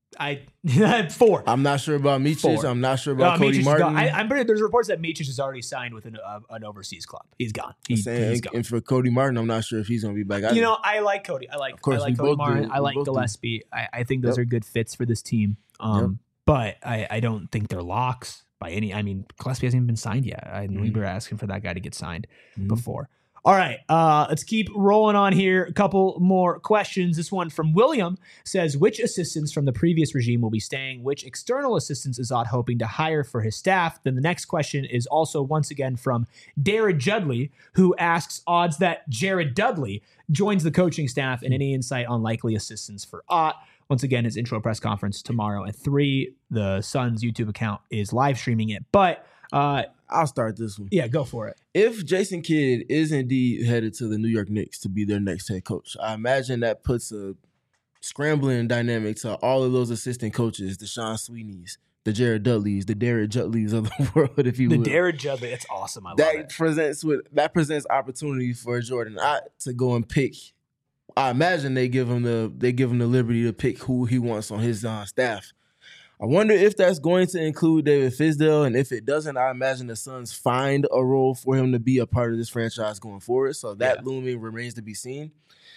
4.
I'm not sure about Micic. I'm not sure about Cody Martin.
I'm pretty. There's reports that Micic is already signed with an overseas club. He's gone. He's gone.
And for Cody Martin, I'm not sure if he's going to be back.
You know, I like Cody. I like Cody Martin. I like Gillespie. I think those are good fits for this team. But I don't think they're locks by any. I mean, Gillespie hasn't even been signed yet. We were asking for that guy to get signed before. All right, let's keep rolling on here. A couple more questions. This one from William says, which assistants from the previous regime will be staying? Which external assistants is Odd hoping to hire for his staff? Then the next question is also once again from Darren Judley, who asks odds that Jared Dudley joins the coaching staff and any insight on likely assistants for Ott. Once again, his intro press conference tomorrow at 3. The Suns YouTube account is live streaming it, but
I'll start this one.
Yeah, go for it.
If Jason Kidd is indeed headed to the New York Knicks to be their next head coach, I imagine that puts a scrambling dynamic to all of those assistant coaches, the Sean Sweeneys, the Jared Dudleys, the Derek Judleys of the world, if you will.
The Derek Judley, that's awesome. I love it.
That presents opportunity for Jordan Ott to go and pick. I imagine they give him the liberty to pick who he wants on his staff. I wonder if that's going to include David Fizdale, and if it doesn't, I imagine the Suns find a role for him to be a part of this franchise going forward. So that looming remains to be seen.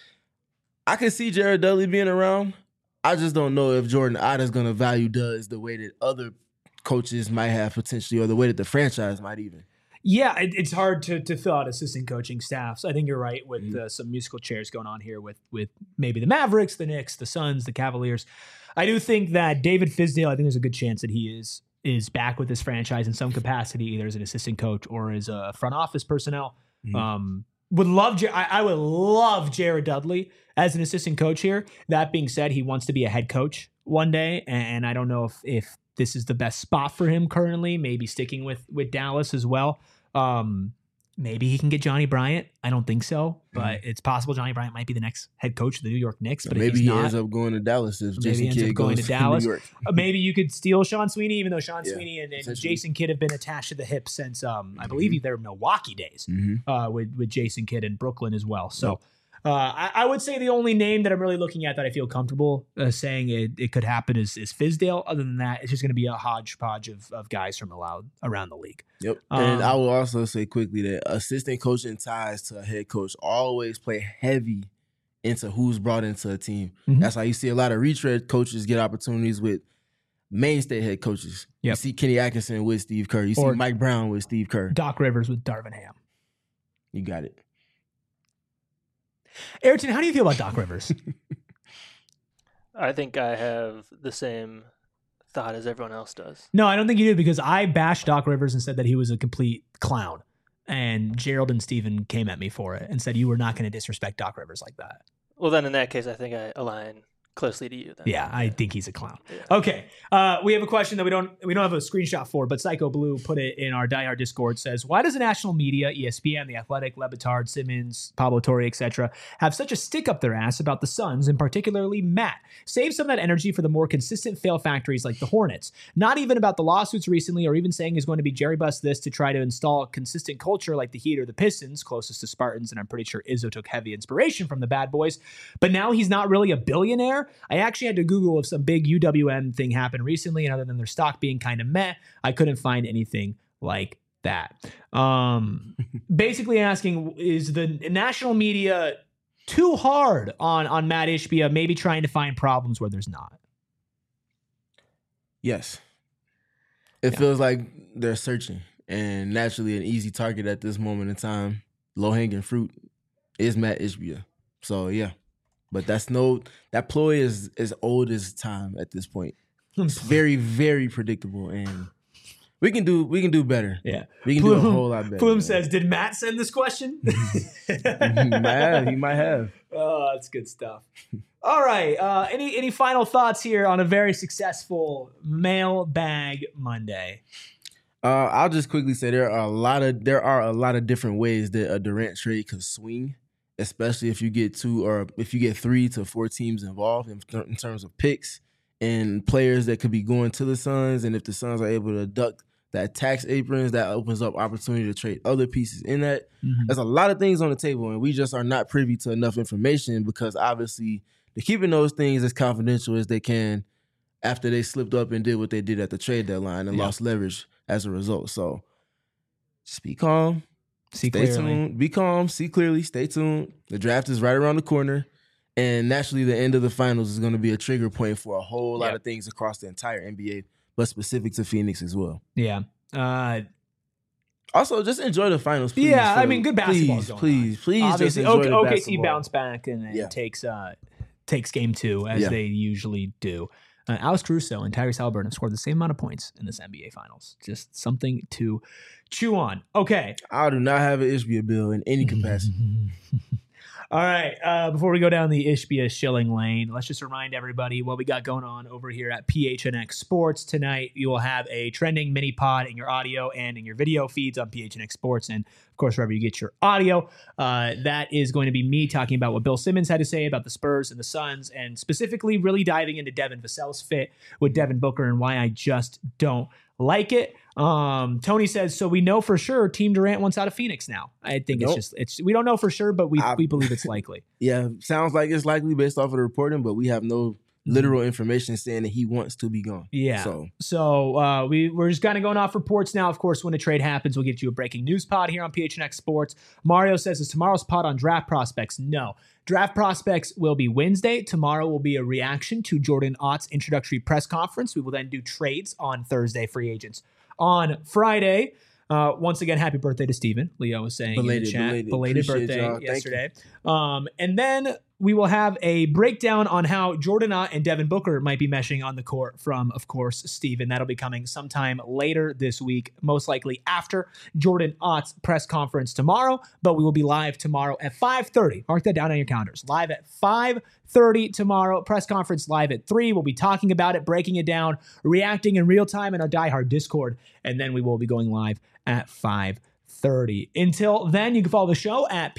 I can see Jared Dudley being around. I just don't know if Jordan Ott is going to value Dudley the way that other coaches might have potentially, or the way that the franchise might even.
Yeah, it's hard to fill out assistant coaching staffs. I think you're right with some musical chairs going on here with maybe the Mavericks, the Knicks, the Suns, the Cavaliers. I do think that David Fizdale, I think there's a good chance that he is back with this franchise in some capacity, either as an assistant coach or as a front office personnel. I would love Jared Dudley as an assistant coach here. That being said, he wants to be a head coach one day, and I don't know if this is the best spot for him currently. Maybe sticking with Dallas as well. Maybe he can get Johnny Bryant. I don't think so, but it's possible Johnny Bryant might be the next head coach of the New York Knicks. But
maybe he ends up going to Dallas if Jason Kidd goes to Dallas. New York.
Maybe you could steal Sean Sweeney, even though Sean Sweeney and Jason Kidd have been attached to the hip since I believe their Milwaukee days with Jason Kidd in Brooklyn as well. So I would say the only name that I'm really looking at that I feel comfortable saying it could happen is Fizdale. Other than that, it's just going to be a hodgepodge of guys from around the league.
Yep. And I will also say quickly that assistant coaching ties to a head coach always play heavy into who's brought into a team. That's how you see a lot of retread coaches get opportunities with mainstay head coaches. You see Kenny Atkinson with Steve Kerr. You see Mike Brown with Steve Kerr.
Doc Rivers with Darvin Ham.
You got it.
Ayrton, how do you feel about Doc Rivers?
I think I have the same thought as everyone else does.
No, I don't think you do, because I bashed Doc Rivers and said that he was a complete clown. And Gerald and Steven came at me for it and said you were not going to disrespect Doc Rivers like that.
Well, then in that case, I think I align closely to you then.
Yeah, I think he's a clown.
Yeah.
Okay. We have a question that we don't have a screenshot for, but Psycho Blue put it in our diehard Discord. Says, why does the national media, ESPN, The Athletic, Le Batard, Simmons, Pablo Torre, etc., have such a stick up their ass about the Suns, and particularly Matt? Save some of that energy for the more consistent fail factories like the Hornets. Not even about the lawsuits recently, or even saying he's going to be Jerry Bust this to try to install a consistent culture like the Heat or the Pistons, closest to Spartans, and I'm pretty sure Izzo took heavy inspiration from the Bad Boys. But now he's not really a billionaire. I actually had to Google if some big UWM thing happened recently, and other than their stock being kind of meh, I couldn't find anything like that. Basically asking, is the national media too hard on Matt Ishbia, maybe trying to find problems where there's not?
Yes. It feels like they're searching, and naturally an easy target at this moment in time, low-hanging fruit, is Matt Ishbia. So, yeah. But that ploy is as old as time at this point. It's very, very predictable, and we can do better.
Yeah.
We can do a whole lot better.
Plume says, did Matt send this question?
He might have.
Oh, that's good stuff. All right. Any final thoughts here on a very successful Mailbag Monday?
I'll just quickly say there are a lot of different ways that a Durant trade could swing, especially if you get 3 to 4 teams involved in terms of picks and players that could be going to the Suns. And if the Suns are able to duck that tax aprons, that opens up opportunity to trade other pieces in that. Mm-hmm. There's a lot of things on the table, and we just are not privy to enough information because obviously they're keeping those things as confidential as they can after they slipped up and did what they did at the trade deadline and lost leverage as a result. So just be calm. Stay tuned. Be calm. See clearly. Stay tuned. The draft is right around the corner. And naturally, the end of the finals is going to be a trigger point for a whole lot of things across the entire NBA, but specific to Phoenix as well.
Yeah.
Also, just enjoy the finals, please.
Yeah, I mean, good basketball going on.
Please,
obviously,
just enjoy the
OKC
basketball.
bounced back and takes game 2 as they usually do. Alex Caruso and Tyrese Haliburton have scored the same amount of points in this NBA Finals. Just something to chew on. Okay.
I do not have an Ishbia bill in any capacity.
All right. Before we go down the Ishbia shilling lane, let's just remind everybody what we got going on over here at PHNX Sports tonight. You will have a trending mini pod in your audio and in your video feeds on PHNX Sports, and of course wherever you get your audio. That is going to be me talking about what Bill Simmons had to say about the Spurs and the Suns, and specifically really diving into Devin Vassell's fit with Devin Booker and why I just don't like it. Tony says, so we know for sure Team Durant wants out of Phoenix now. I think it's we don't know for sure, but we believe it's likely.
Yeah, sounds like it's likely based off of the reporting, but we have no literal information saying that he wants to be gone.
Yeah. So we're just kind of going off reports now. Of course, when a trade happens, we'll get you a breaking news pod here on PHNX Sports. Mario says, is tomorrow's pod on draft prospects? No. Draft prospects will be Wednesday. Tomorrow will be a reaction to Jordan Ott's introductory press conference. We will then do trades on Thursday, free agents on Friday. Once again, happy birthday to Steven. Leo was saying in the chat. Belated birthday yesterday. And then we will have a breakdown on how Jordan Ott and Devin Booker might be meshing on the court from, of course, Steven. That'll be coming sometime later this week, most likely after Jordan Ott's press conference tomorrow. But we will be live tomorrow at 5:30. Mark that down on your calendars. Live at 5:30 tomorrow. Press conference live at 3. We'll be talking about it, breaking it down, reacting in real time in our Die Hard Discord. And then we will be going live at 5:30. Until then, you can follow the show at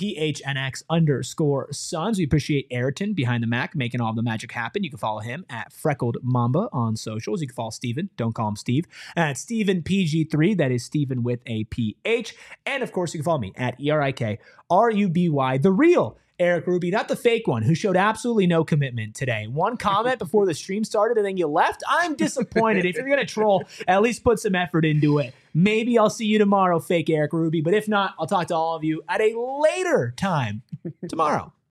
PHNX_Suns. We appreciate Ayrton behind the Mac making all the magic happen. You can follow him at Freckled Mamba on socials. You can follow Steven, don't call him Steve, at StevenPG3. That is Steven with a PH. And of course, you can follow me at ERIKRUBY, the real Eric Ruby, not the fake one, who showed absolutely no commitment today. One comment before the stream started and then you left. I'm disappointed. If you're going to troll, at least put some effort into it. Maybe I'll see you tomorrow, fake Eric Ruby. But if not, I'll talk to all of you at a later time tomorrow.